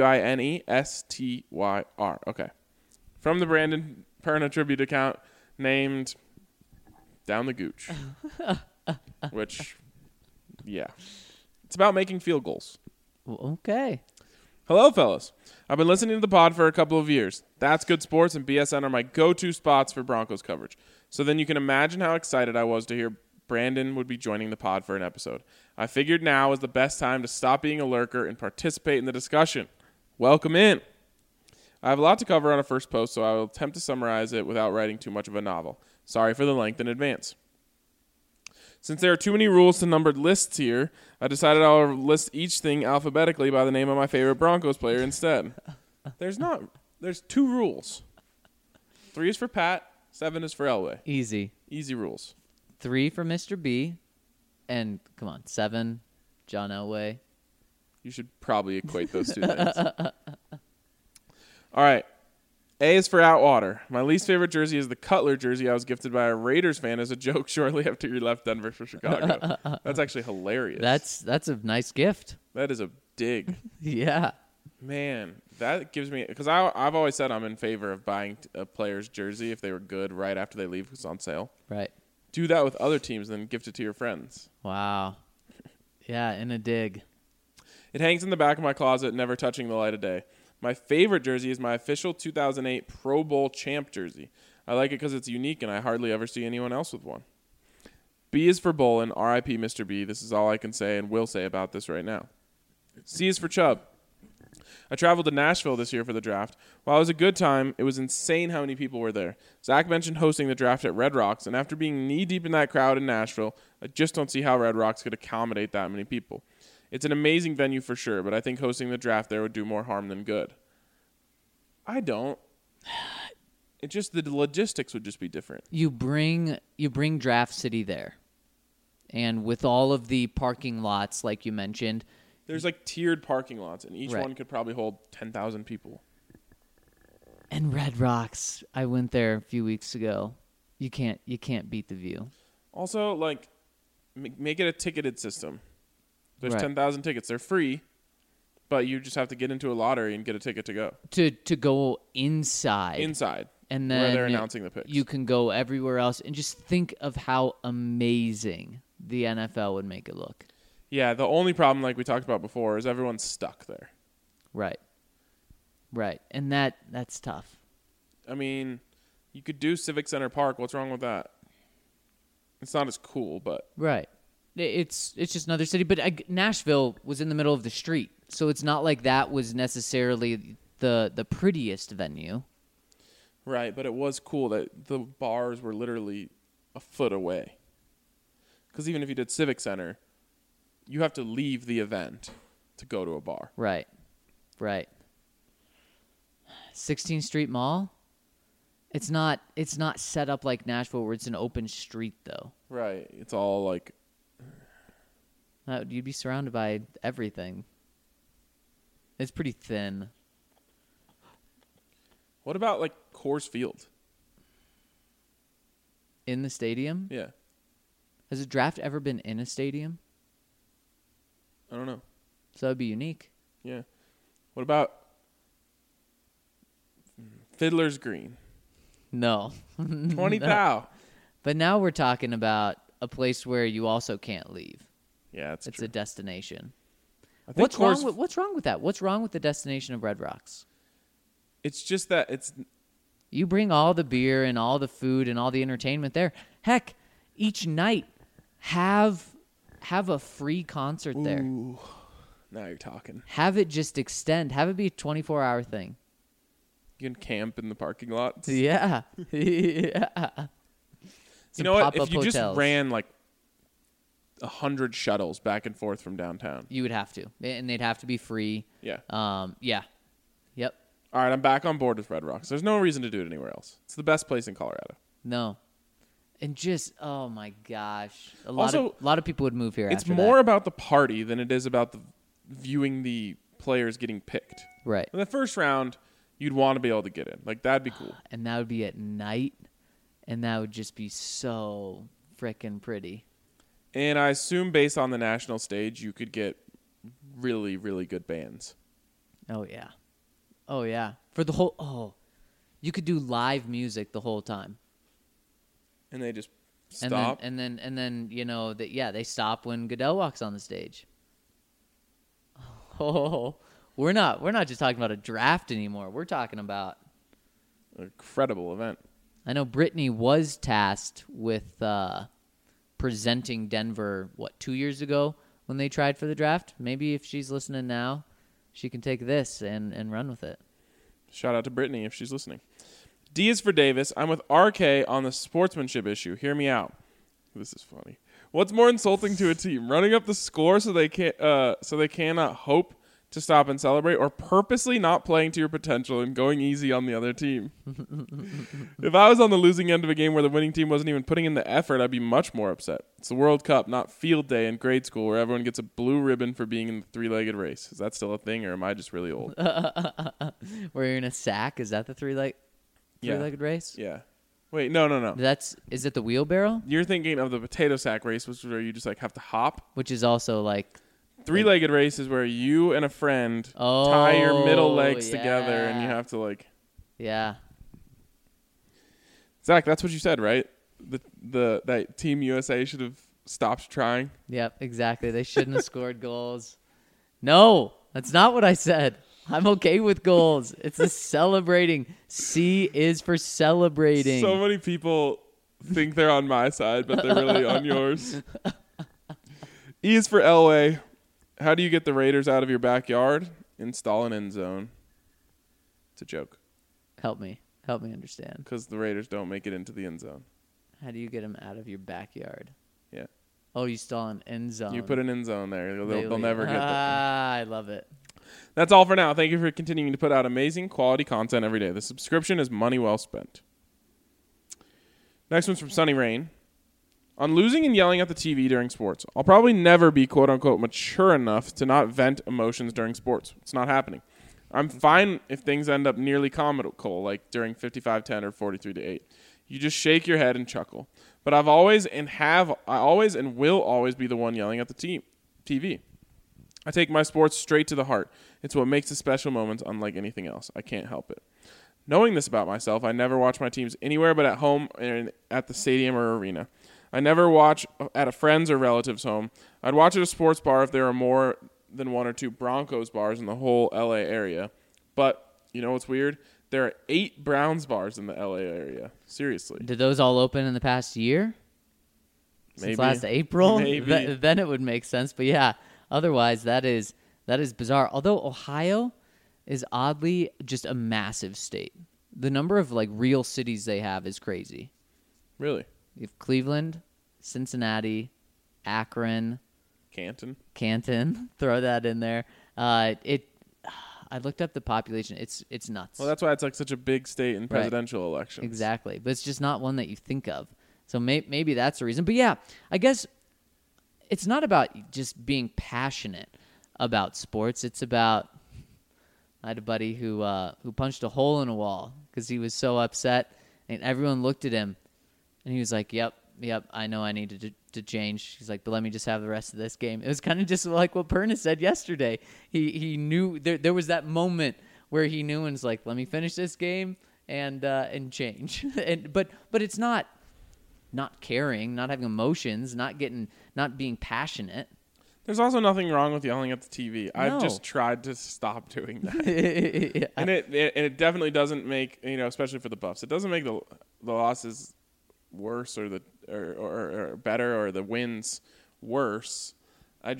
Winestyr. Okay. From the Brandon Perna tribute account named Down the Gooch. Which, yeah. It's about making field goals. Okay. Hello, fellas. I've been listening to the pod for a couple of years. That's Good Sports and BSN are my go-to spots for Broncos coverage. So then you can imagine how excited I was to hear Brandon would be joining the pod for an episode. I figured now was the best time to stop being a lurker and participate in the discussion. Welcome in. I have a lot to cover on a first post, so I will attempt to summarize it without writing too much of a novel. Sorry for the length in advance. Since there are too many rules to numbered lists here, I decided I'll list each thing alphabetically by the name of my favorite Broncos player instead. There's 2 rules. 3 is for Pat, 7 is for Elway. Easy. Easy rules. 3 for Mr. B, and come on, 7, John Elway. You should probably equate those 2 things. All right. A is for Outwater. My least favorite jersey is the Cutler jersey I was gifted by a Raiders fan as a joke shortly after he left Denver for Chicago. That's actually hilarious. That's a nice gift. That is a dig. Yeah. Man, that gives me – because I've always said I'm in favor of buying a player's jersey if they were good right after they leave because it's on sale. Right. Do that with other teams and then gift it to your friends. Wow. Yeah, in a dig. It hangs in the back of my closet, never touching the light of day. My favorite jersey is my official 2008 Pro Bowl champ jersey. I like it because it's unique, and I hardly ever see anyone else with one. B is for Bolin, R.I.P. Mr. B. This is all I can say and will say about this right now. C is for Chubb. I traveled to Nashville this year for the draft. While it was a good time, it was insane how many people were there. Zach mentioned hosting the draft at Red Rocks, and after being knee-deep in that crowd in Nashville, I just don't see how Red Rocks could accommodate that many people. It's an amazing venue for sure, but I think hosting the draft there would do more harm than good. I don't. It just the logistics would just be different. You bring Draft City there, and with all of the parking lots, like you mentioned, there's like tiered parking lots, and each Right. one could probably hold 10,000 people. and Red Rocks. I went there a few weeks ago. You can't beat the view. Also, like, make it a ticketed system. There's Right. 10,000 tickets. They're free, but you just have to get into a lottery and get a ticket to go. To go inside. Inside, And where then they're announcing the picks. you can go everywhere else, and just think of how amazing the NFL would make it look. Yeah, the only problem, like we talked about before, is everyone's stuck there. Right. And that's tough. I mean, you could do Civic Center Park. What's wrong with that? It's not as cool, but Right. It's just another city, but Nashville was in the middle of the street, so it's not like that was necessarily the prettiest venue. right. But it was cool that the bars were literally a foot away. Because even if you did Civic Center, you have to leave the event to go to a bar. Right. 16th Street Mall. It's not set up like Nashville where it's an open street though. Right. It's all like, You'd be surrounded by everything. It's pretty thin. what about like Coors Field? In the stadium? Yeah. Has a draft ever been in a stadium? I don't know. So that would be unique. Yeah. What about Fiddler's Green. No. 20 No. thou. But now we're talking about a place where you also can't leave. Yeah, it's It's true. a destination. I think What's wrong with that? What's wrong with the destination of Red Rocks? It's just that it's You bring all the beer and all the food and all the entertainment there. Heck, each night have a free concert there. Ooh, now you're talking. Have it just extend. Have it be a 24-hour thing. You can camp in the parking lot. Yeah. Yeah. You know what? If pop-up you just hotels. ran like 100 shuttles back and forth from downtown. You would have to. And they'd have to be free. Yeah. Yeah. Yep. All right, I'm back on board with Red Rocks. There's no reason to do it anywhere else. It's the best place in Colorado. No. And just, oh my gosh. A Also, lot of people would move here It's after more that. about the party than it is about the viewing the players getting picked. Right. In the first round, you'd want to be able to get in. Like, that'd be cool. And that would be at night. And that would just be so frickin' pretty. And I assume based on the national stage, you could get really, really good bands. Oh, yeah. Oh, yeah. For the whole, you could do live music the whole time. And they just stop. And then you know, they stop when Goodell walks on the stage. Oh, we're not just talking about a draft anymore. We're talking about, An incredible event. I know Brittany was tasked with presenting Denver, 2 years ago when they tried for the draft? Maybe if she's listening now, she can take this and run with it. Shout out to Brittany if she's listening. D is for Davis. I'm with RK on the sportsmanship issue. Hear me out. This is funny. What's more insulting to a team? Running up the score so they cannot hope to stop and celebrate, or purposely not playing to your potential and going easy on the other team? If I was on the losing end of a game where the winning team wasn't even putting in the effort, I'd be much more upset. It's the World Cup, not field day in grade school where everyone gets a blue ribbon for being in the three-legged race. Is that still a thing, or am I just really old? Where you're in a sack? Is that the three-legged race? Yeah. Wait, no. Is it the wheelbarrow? You're thinking of the potato sack race, which is where you just like have to hop. Which is also like, Three-legged race is where you and a friend tie your middle legs together, and you yeah. have to like. Yeah. Zach, that's what you said, right? That Team USA should have stopped trying. Yep, exactly. They shouldn't have scored goals. No, that's not what I said. I'm okay with goals. It's the celebrating. C is for celebrating. So many people think they're on my side, but they're really on yours. E is for Elway. How do you get the Raiders out of your backyard? Install an end zone. It's a joke, Help me understand. because the Raiders don't make it into the end zone. How do you get them out of your backyard? Yeah. Oh, you stall an end zone. You put an end zone there. They'll Really? never get there. I love it. That's all for now. Thank you for continuing to put out amazing quality content every day. The subscription is money well spent. Next one's from Sunny Rain. On losing and yelling at the TV during sports, I'll probably never be quote-unquote mature enough to not vent emotions during sports. It's not happening. I'm fine if things end up nearly comical, like during 55-10 or 43-8. You just shake your head and chuckle. But I always and will always be the one yelling at the TV. I take my sports straight to the heart. It's what makes the special moments unlike anything else. I can't help it. Knowing this about myself, I never watch my teams anywhere but at home and at the stadium or arena. I never watch at a friend's or relative's home. I'd watch at a sports bar if there are more than one or two Broncos bars in the whole LA area. But, you know what's weird? There are 8 Browns bars in the LA area. Seriously. Did those all open in the past year? Maybe. Since last April? Maybe. Then it would make sense. But yeah, otherwise that is bizarre. Although Ohio is oddly just a massive state. The number of like real cities they have is crazy. Really? You have Cleveland, Cincinnati, Akron, Canton. Throw that in there. I looked up the population. It's nuts. Well, that's why it's like such a big state in presidential elections. Exactly. But it's just not one that you think of. So maybe that's the reason. But yeah, I guess it's not about just being passionate about sports. It's about, I had a buddy who punched a hole in a wall because he was so upset, and everyone looked at him, and he was like, yep, I know I need to change. He's like, but let me just have the rest of this game. It was kind of just like what Perna said yesterday. He knew there was that moment where he knew and was like, let me finish this game. and change. But it's not caring, not having emotions, not being passionate. There's also nothing wrong with yelling at the TV. I've No. just tried to stop doing that. Yeah. And it definitely doesn't make, especially for the Buffs, it doesn't make the losses worse or better or the wins worse. I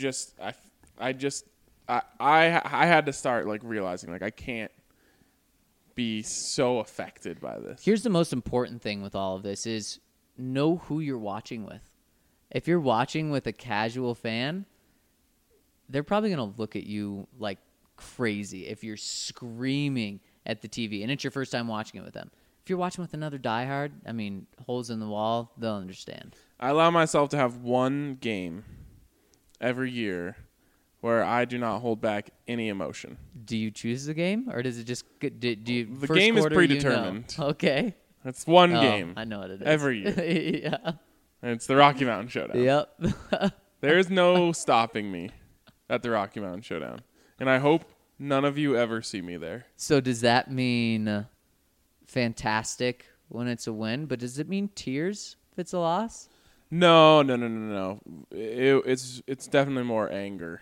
had to start like realizing like I can't be so affected by this. Here's the most important thing with all of this is know who you're watching with. If you're watching with a casual fan, they're probably going to look at you like crazy if you're screaming at the TV and it's your first time watching it with them. If you're watching with another diehard, I mean, holes in the wall, they'll understand. I allow myself to have one game every year where I do not hold back any emotion. Do you choose the game or does it just do you The first game is quarter, predetermined. You know? Okay. It's one Oh, game I know what it is. every year. Yeah. And it's the Rocky Mountain Showdown. Yep. There is no stopping me at the Rocky Mountain Showdown. And I hope none of you ever see me there. So does that mean fantastic when it's a win, but does it mean tears if it's a loss? No. It's definitely more anger.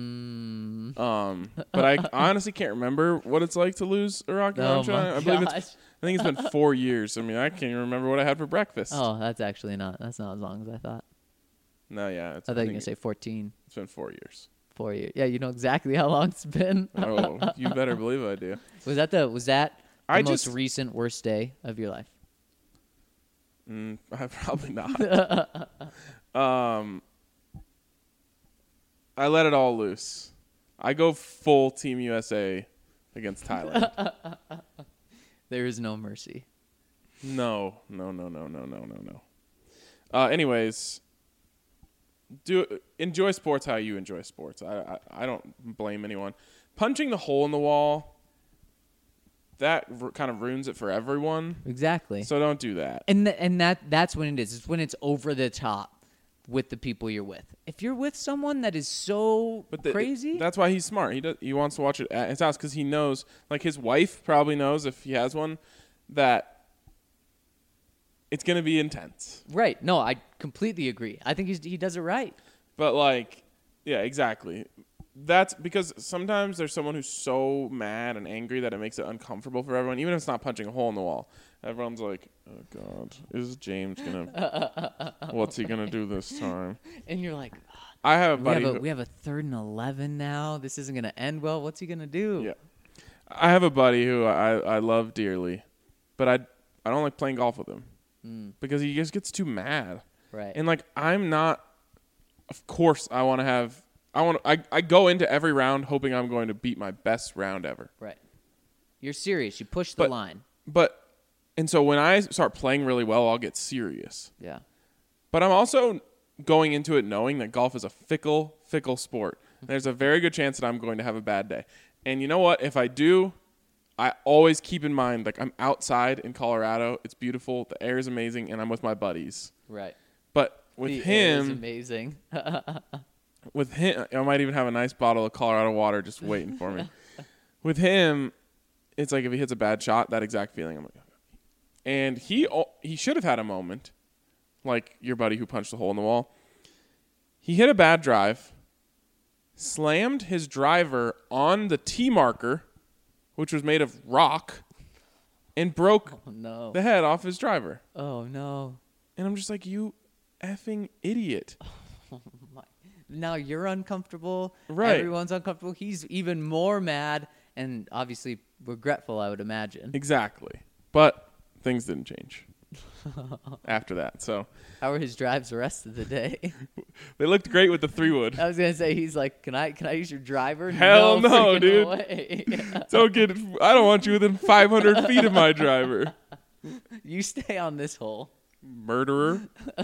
But I honestly can't remember what it's like to lose a Rocky Oh Mountain my Showdown. gosh. I think it's been 4 years. I mean, I can't even remember what I had for breakfast. Oh, that's not as long as I thought. No, yeah. I thought you were going to say 14. It's been 4 years. 4 years. Yeah, you know exactly how long it's been. Oh, you better believe I do. Was that the I most just- recent worst day of your life? Probably not. I let it all loose. I go full Team USA against Thailand. There is no mercy. No. Anyways, enjoy sports how you enjoy sports. I don't blame anyone. Punching the hole in the wall, that kind of ruins it for everyone. Exactly. So don't do that. And that's when it is. It's when it's over the top with the people you're with. If you're with someone that is so crazy, That's why he's smart. He wants to watch it at his house because he knows, like his wife probably knows if he has one, that it's going to be intense. right? No, I completely agree. I think he does it right. But like, yeah, exactly. That's because sometimes there's someone who's so mad and angry that it makes it uncomfortable for everyone, even if it's not punching a hole in the wall. Everyone's like, oh, God, is James going to – what's he going to do this time? And you're like, I have a buddy we have a 3rd and 11 now. This isn't going to end well. What's he going to do? Yeah. I have a buddy who I love dearly, but I don't like playing golf with him because he just gets too mad. Right. And like I'm not – of course I want to have – I go into every round hoping I'm going to beat my best round ever. Right. You're serious. You push the line. And so when I start playing really well, I'll get serious. Yeah. But I'm also going into it knowing that golf is a fickle sport. There's a very good chance that I'm going to have a bad day. And you know what? If I do, I always keep in mind, like I'm outside in Colorado. It's beautiful. The air is amazing. And I'm with my buddies. Right. But with The air is him, amazing. I might even have a nice bottle of Colorado water just waiting for me. With him, it's like if he hits a bad shot, that exact feeling. I'm like, and he should have had a moment, like your buddy who punched the hole in the wall. He hit a bad drive, slammed his driver on the tee marker, which was made of rock, and broke Oh, no. the head off his driver. Oh, no. And I'm just like, you effing idiot. Now you're uncomfortable. Right. Everyone's uncomfortable. He's even more mad and obviously regretful, I would imagine. Exactly. But things didn't change after that. So How were his drives the rest of the day? they looked great with the 3-wood. I was going to say, he's like, can I use your driver? Hell no, freaking dude. way. I don't want you within 500 feet of my driver. You stay on this hole. Murderer.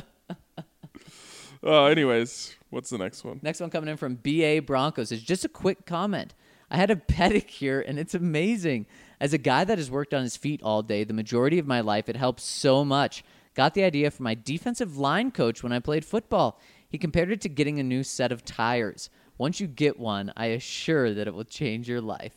Anyways, what's the next one? Next one coming in from BA Broncos is just a quick comment. I had a pedicure and it's amazing. As a guy that has worked on his feet all day, the majority of my life, it helps so much. Got the idea from my defensive line coach when I played football. He compared it to getting a new set of tires. Once you get one, I assure that it will change your life.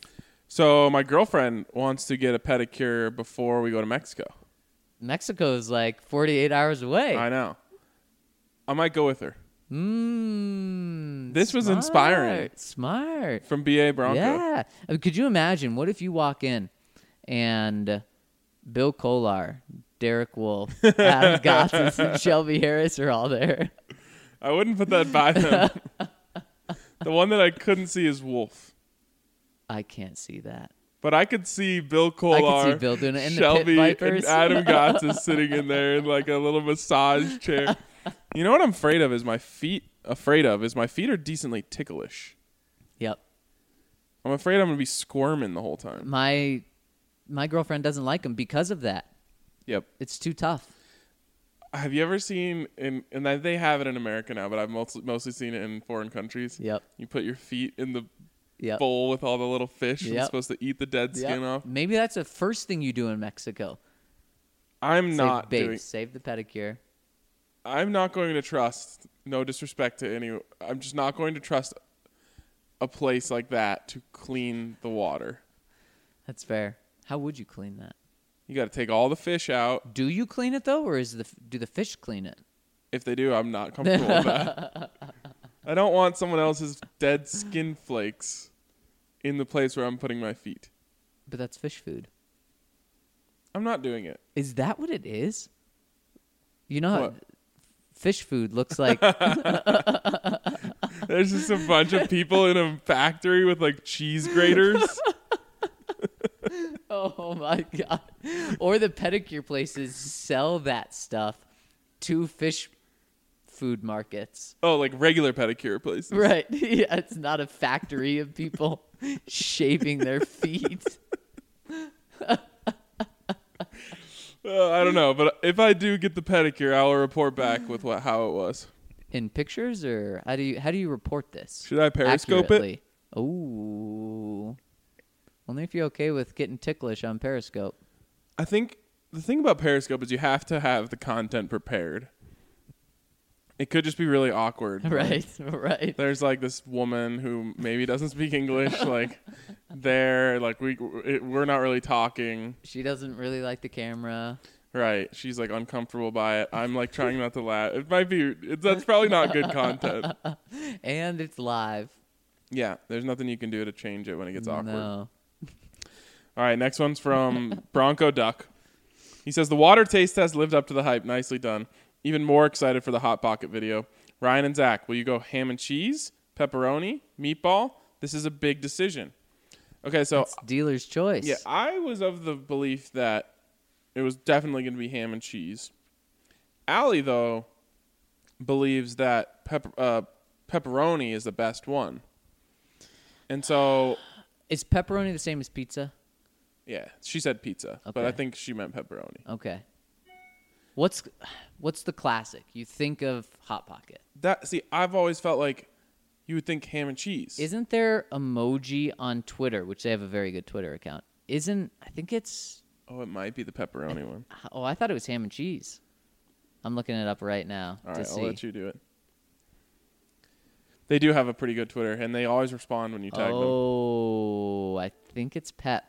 So my girlfriend wants to get a pedicure before we go to Mexico. Mexico is like 48 hours away. I know. I might go with her. This was Smart. inspiring. Smart. From BA Bronco. Yeah. I mean, could you imagine? What if you walk in and Bill Kolar, Derek Wolf, Adam Gotsis, and Shelby Harris are all there? I wouldn't put that by them. The one that I couldn't see is Wolf. I can't see that. But I could see Bill Kolar, I could see Bill doing it, and the Shelby, Pit Vipers. and Adam Gotsis sitting in there in like a little massage chair. You know what I'm afraid of is my feet are decently ticklish. Yep. I'm afraid I'm going to be squirming the whole time. My girlfriend doesn't like them because of that. Yep. It's too tough. Have you ever seen, and they have it in America now, but I've mostly seen it in foreign countries. Yep. You put your feet in the Yep. bowl with all the little fish and Yep. it's supposed to eat the dead skin off. Maybe that's the first thing you do in Mexico. I'm not Save the pedicure. I'm not going to trust, no disrespect to any, I'm just not going to trust a place like that to clean the water. That's fair. How would you clean that? You got to take all the fish out. Do you clean it though, or do the fish clean it? If they do, I'm not comfortable with that. I don't want someone else's dead skin flakes in the place where I'm putting my feet. But that's fish food. I'm not doing it. Is that what it is? You know how What? fish food looks like? There's just a bunch of people in a factory with like cheese graters. Oh my god. Or the pedicure places sell that stuff to fish food markets. Oh, like regular pedicure places. Right. Yeah, it's not a factory of people shaving their feet. I don't know, but if I do get the pedicure, I will report back with how it was. In pictures, or how do you report this? Should I Periscope it? Oh. Only if you're okay with getting ticklish on Periscope. I think the thing about Periscope is you have to have the content prepared. It could just be really awkward. Right, right. There's like this woman who maybe doesn't speak English, like we're not really talking. She doesn't really like the camera. Right. She's like uncomfortable by it. I'm like trying not to laugh. That's probably not good content. And it's live. Yeah, there's nothing you can do to change it when it gets awkward. No. All right, next one's from Bronco Duck. He says, the water taste test lived up to the hype. Nicely done. Even more excited for the Hot Pocket video. Ryan and Zach, will you go ham and cheese, pepperoni, meatball? This is a big decision. Okay, so It's dealer's choice. yeah, I was of the belief that it was definitely going to be ham and cheese. Allie, though, believes that pepperoni is the best one. And so... Is pepperoni the same as pizza? Yeah, she said pizza, but Okay. I think she meant pepperoni. Okay. What's the classic? You think of Hot Pocket. I've always felt like you would think ham and cheese. Isn't there emoji on Twitter, which they have a very good Twitter account? I think it's... Oh, it might be the pepperoni one. Oh, I thought it was ham and cheese. I'm looking it up right now All to right, see. I'll let you do it. They do have a pretty good Twitter, and they always respond when you tag them. Oh, I think it's Pep.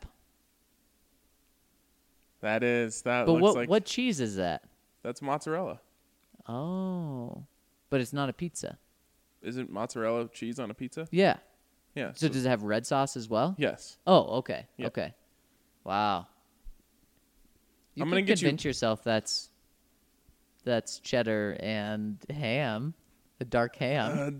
That But looks what like... what cheese is that? That's mozzarella. Oh, but it's not a pizza. Isn't mozzarella cheese on a pizza? Yeah. Yeah. So does it have red sauce as well? Yes. Oh, okay. Yeah. Okay. Wow. You I'm can gonna get you- convince yourself that's cheddar and ham, the dark ham.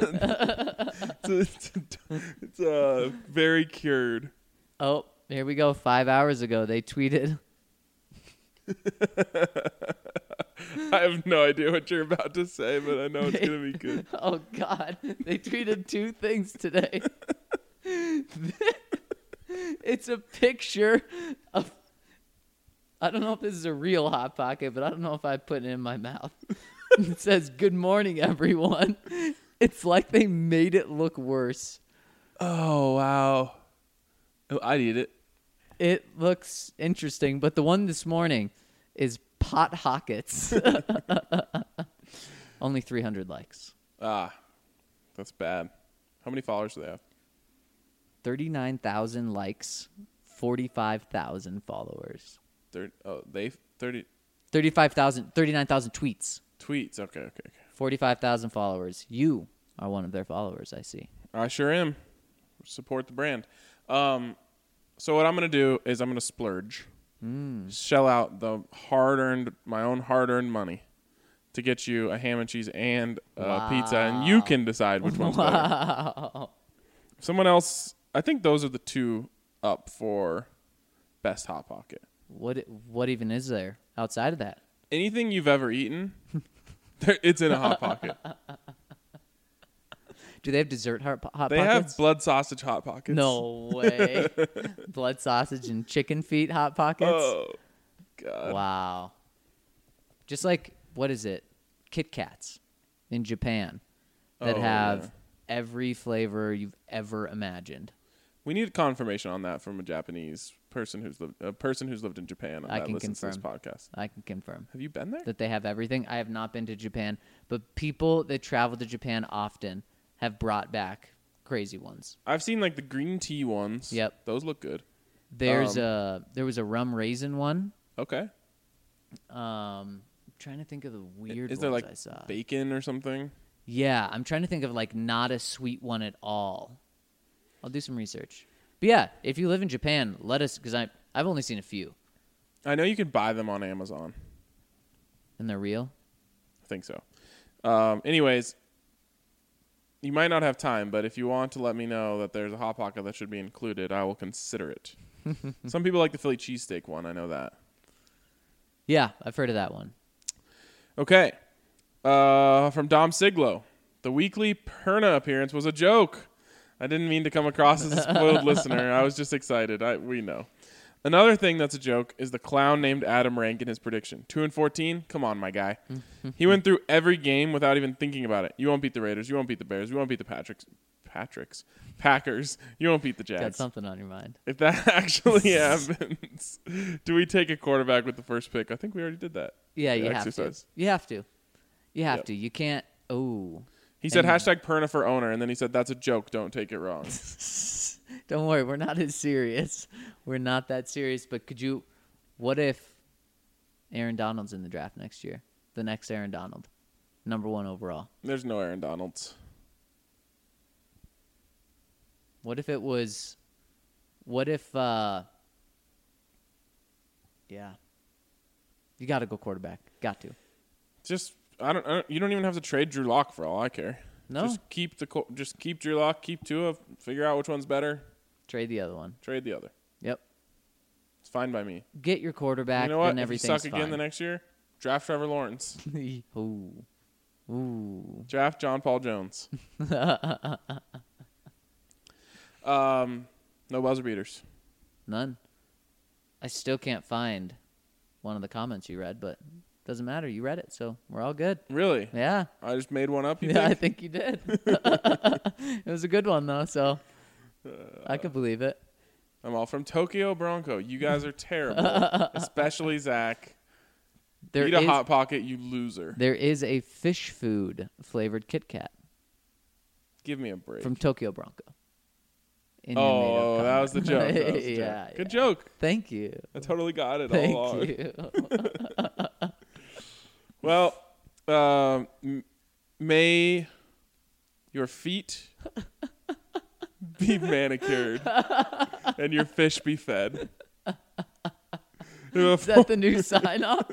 It's very cured. Oh, here we go. 5 hours ago, they tweeted. I have no idea what you're about to say, but I know it's going to be good. Oh, God. They tweeted two things today. It's a picture of... I don't know if this is a real Hot Pocket, but I don't know if I put it in my mouth. It says, "Good morning, everyone." It's like they made it look worse. Oh, wow. Oh, I'd eat it. It looks interesting, but the one this morning is Pot Hockets. Only 300 likes. Ah, that's bad. How many followers do they have? 39,000 likes, 45,000 followers. 39,000 tweets, tweets. Okay. 45,000 followers. You are one of their followers, I see. I sure am. Support the brand. So what I'm going to do is I'm going to splurge. Shell out my own hard-earned money to get you a ham and cheese and pizza, and you can decide which one's better. Someone else, I think those are the two up for best Hot Pocket. What even is there outside of that? Anything you've ever eaten, it's in a Hot Pocket. Do they have dessert hot pockets? They have blood sausage Hot Pockets. No way. Blood sausage and chicken feet Hot Pockets? Oh, God. Wow. Just like, what is it? Kit Kats in Japan that have every flavor you've ever imagined. We need confirmation on that from a Japanese person who's lived in Japan. I can listens confirm. to this podcast. I can confirm. Have you been there? That they have everything. I have not been to Japan, but people that travel to Japan often have brought back crazy ones. I've seen like the green tea ones. Yep. Those look good. There was a rum raisin one. Okay. I'm trying to think of the weird Is ones there like I saw. bacon or something? Yeah, I'm trying to think of like not a sweet one at all. I'll do some research. But yeah, if you live in Japan, let us, because I've only seen a few. I know you can buy them on Amazon. And they're real? I think so. Anyways, you might not have time, but if you want to let me know that there's a Hot Pocket that should be included, I will consider it. Some people like the Philly cheesesteak one. I know that. Yeah, I've heard of that one. Okay. From Dom Siglo. The weekly Perna appearance was a joke. I didn't mean to come across as a spoiled listener. I was just excited. We know. Another thing that's a joke is the clown named Adam ranking his prediction. 2-14? Come on, my guy. He went through every game without even thinking about it. You won't beat the Raiders. You won't beat the Bears. You won't beat the Packers. You won't beat the Jags. Got something on your mind. If that actually happens, do we take a quarterback with the first pick? I think we already did that. Yeah, you exercise. have to. You have to. You can't. Oh. He said hashtag Perna for owner, and then he said, that's a joke. Don't take it wrong. Don't worry. We're not as serious. We're not that serious. But what if Aaron Donald's in the draft next year? The next Aaron Donald. Number 1 overall. There's no Aaron Donalds. What if, yeah. You got to go quarterback. Got to. You don't even have to trade Drew Lock for all I care. No. Just keep Drew Lock, keep Tua, figure out which one's better. Trade the other one. Trade the other. Yep. It's fine by me. Get your quarterback, You know what? then If you everything's suck again the next year, draft Trevor Lawrence. Ooh. Draft John Paul Jones. No buzzer beaters. None. I still can't find one of the comments you read, but doesn't matter. You read it, so we're all good. Really? Yeah. I just made one up, you Yeah, I think? think you did. It was a good one, though, so I could believe it. I'm all from Tokyo Bronco. You guys are terrible, especially Zach. Eat a Hot Pocket, you loser. There is a fish food flavored Kit Kat Give me a break. from Tokyo Bronco. Oh, that was the joke. That was the Yeah, joke. Good joke. Thank you. I totally got it all Thank along. you. Well, may your feet be manicured and your fish be fed. Is that the new sign off?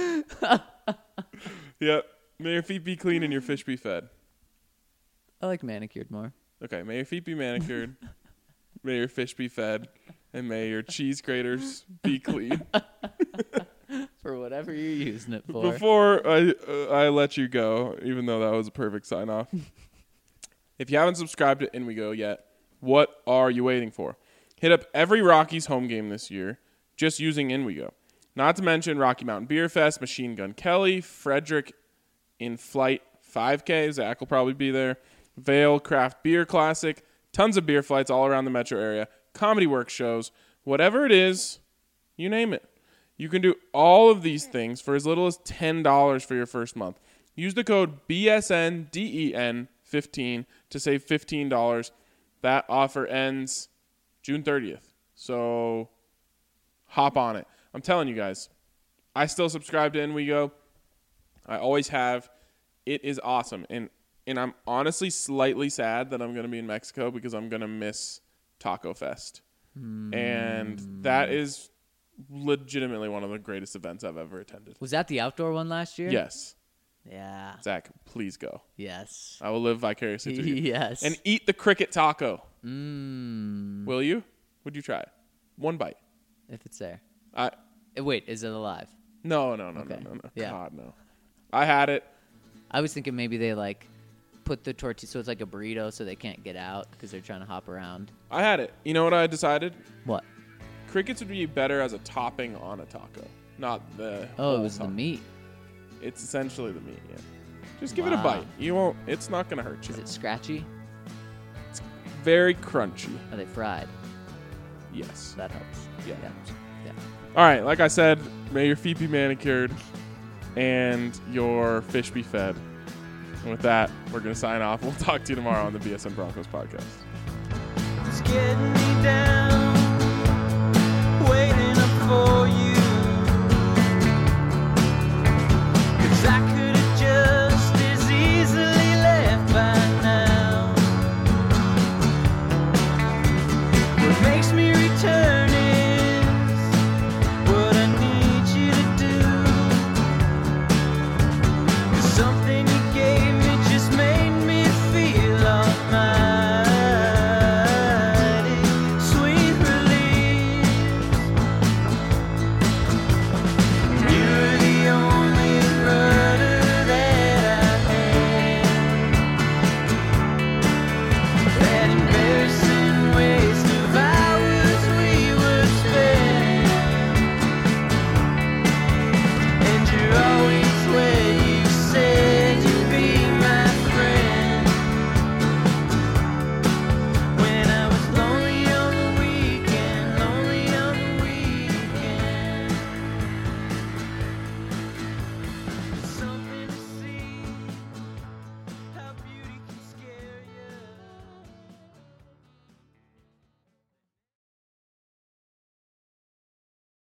Yep. May your feet be clean and your fish be fed. I like manicured more. Okay. May your feet be manicured. May your fish be fed. And may your cheese graters be clean. For whatever you're using it for. Before I let you go, even though that was a perfect sign off, if you haven't subscribed to In We Go yet, what are you waiting for? Hit up every Rockies home game this year just using In We Go. Not to mention Rocky Mountain Beer Fest, Machine Gun Kelly, Frederick In Flight 5K. Zach will probably be there. Vale Craft Beer Classic. Tons of beer flights all around the metro area. Comedy work shows. Whatever it is, you name it. You can do all of these things for as little as $10 for your first month. Use the code BSNDEN15 to save $15. That offer ends June 30th. So hop on it. I'm telling you guys, I still subscribe to NWeGo. I always have. It is awesome. And I'm honestly slightly sad that I'm going to be in Mexico because I'm going to miss Taco Fest. And that is legitimately one of the greatest events I've ever attended. Was that the outdoor one last year? Yes. Yeah. Zach, please go. Yes. I will live vicariously through you. Yes. And eat the cricket taco. Will you? Would you try it? One bite. If it's there. I Wait, is it alive? No. Okay. No. Yeah. God, no. I had it. I was thinking maybe they like put the tortilla so it's like a burrito so they can't get out because they're trying to hop around. I had it. You know what I decided? What? Crickets would be better as a topping on a taco, not the Oh, whole it was the taco. meat. It's essentially the meat, yeah. Just give it a Wow. bite. You won't. It's not going to hurt you. Is it scratchy? Very crunchy. Are they fried? Yes. That helps. Yeah. Yeah. All right, like I said, may your feet be manicured and your fish be fed. And with that, we're going to sign off. We'll talk to you tomorrow on the BSN Broncos podcast. It's getting me down, waiting up for you.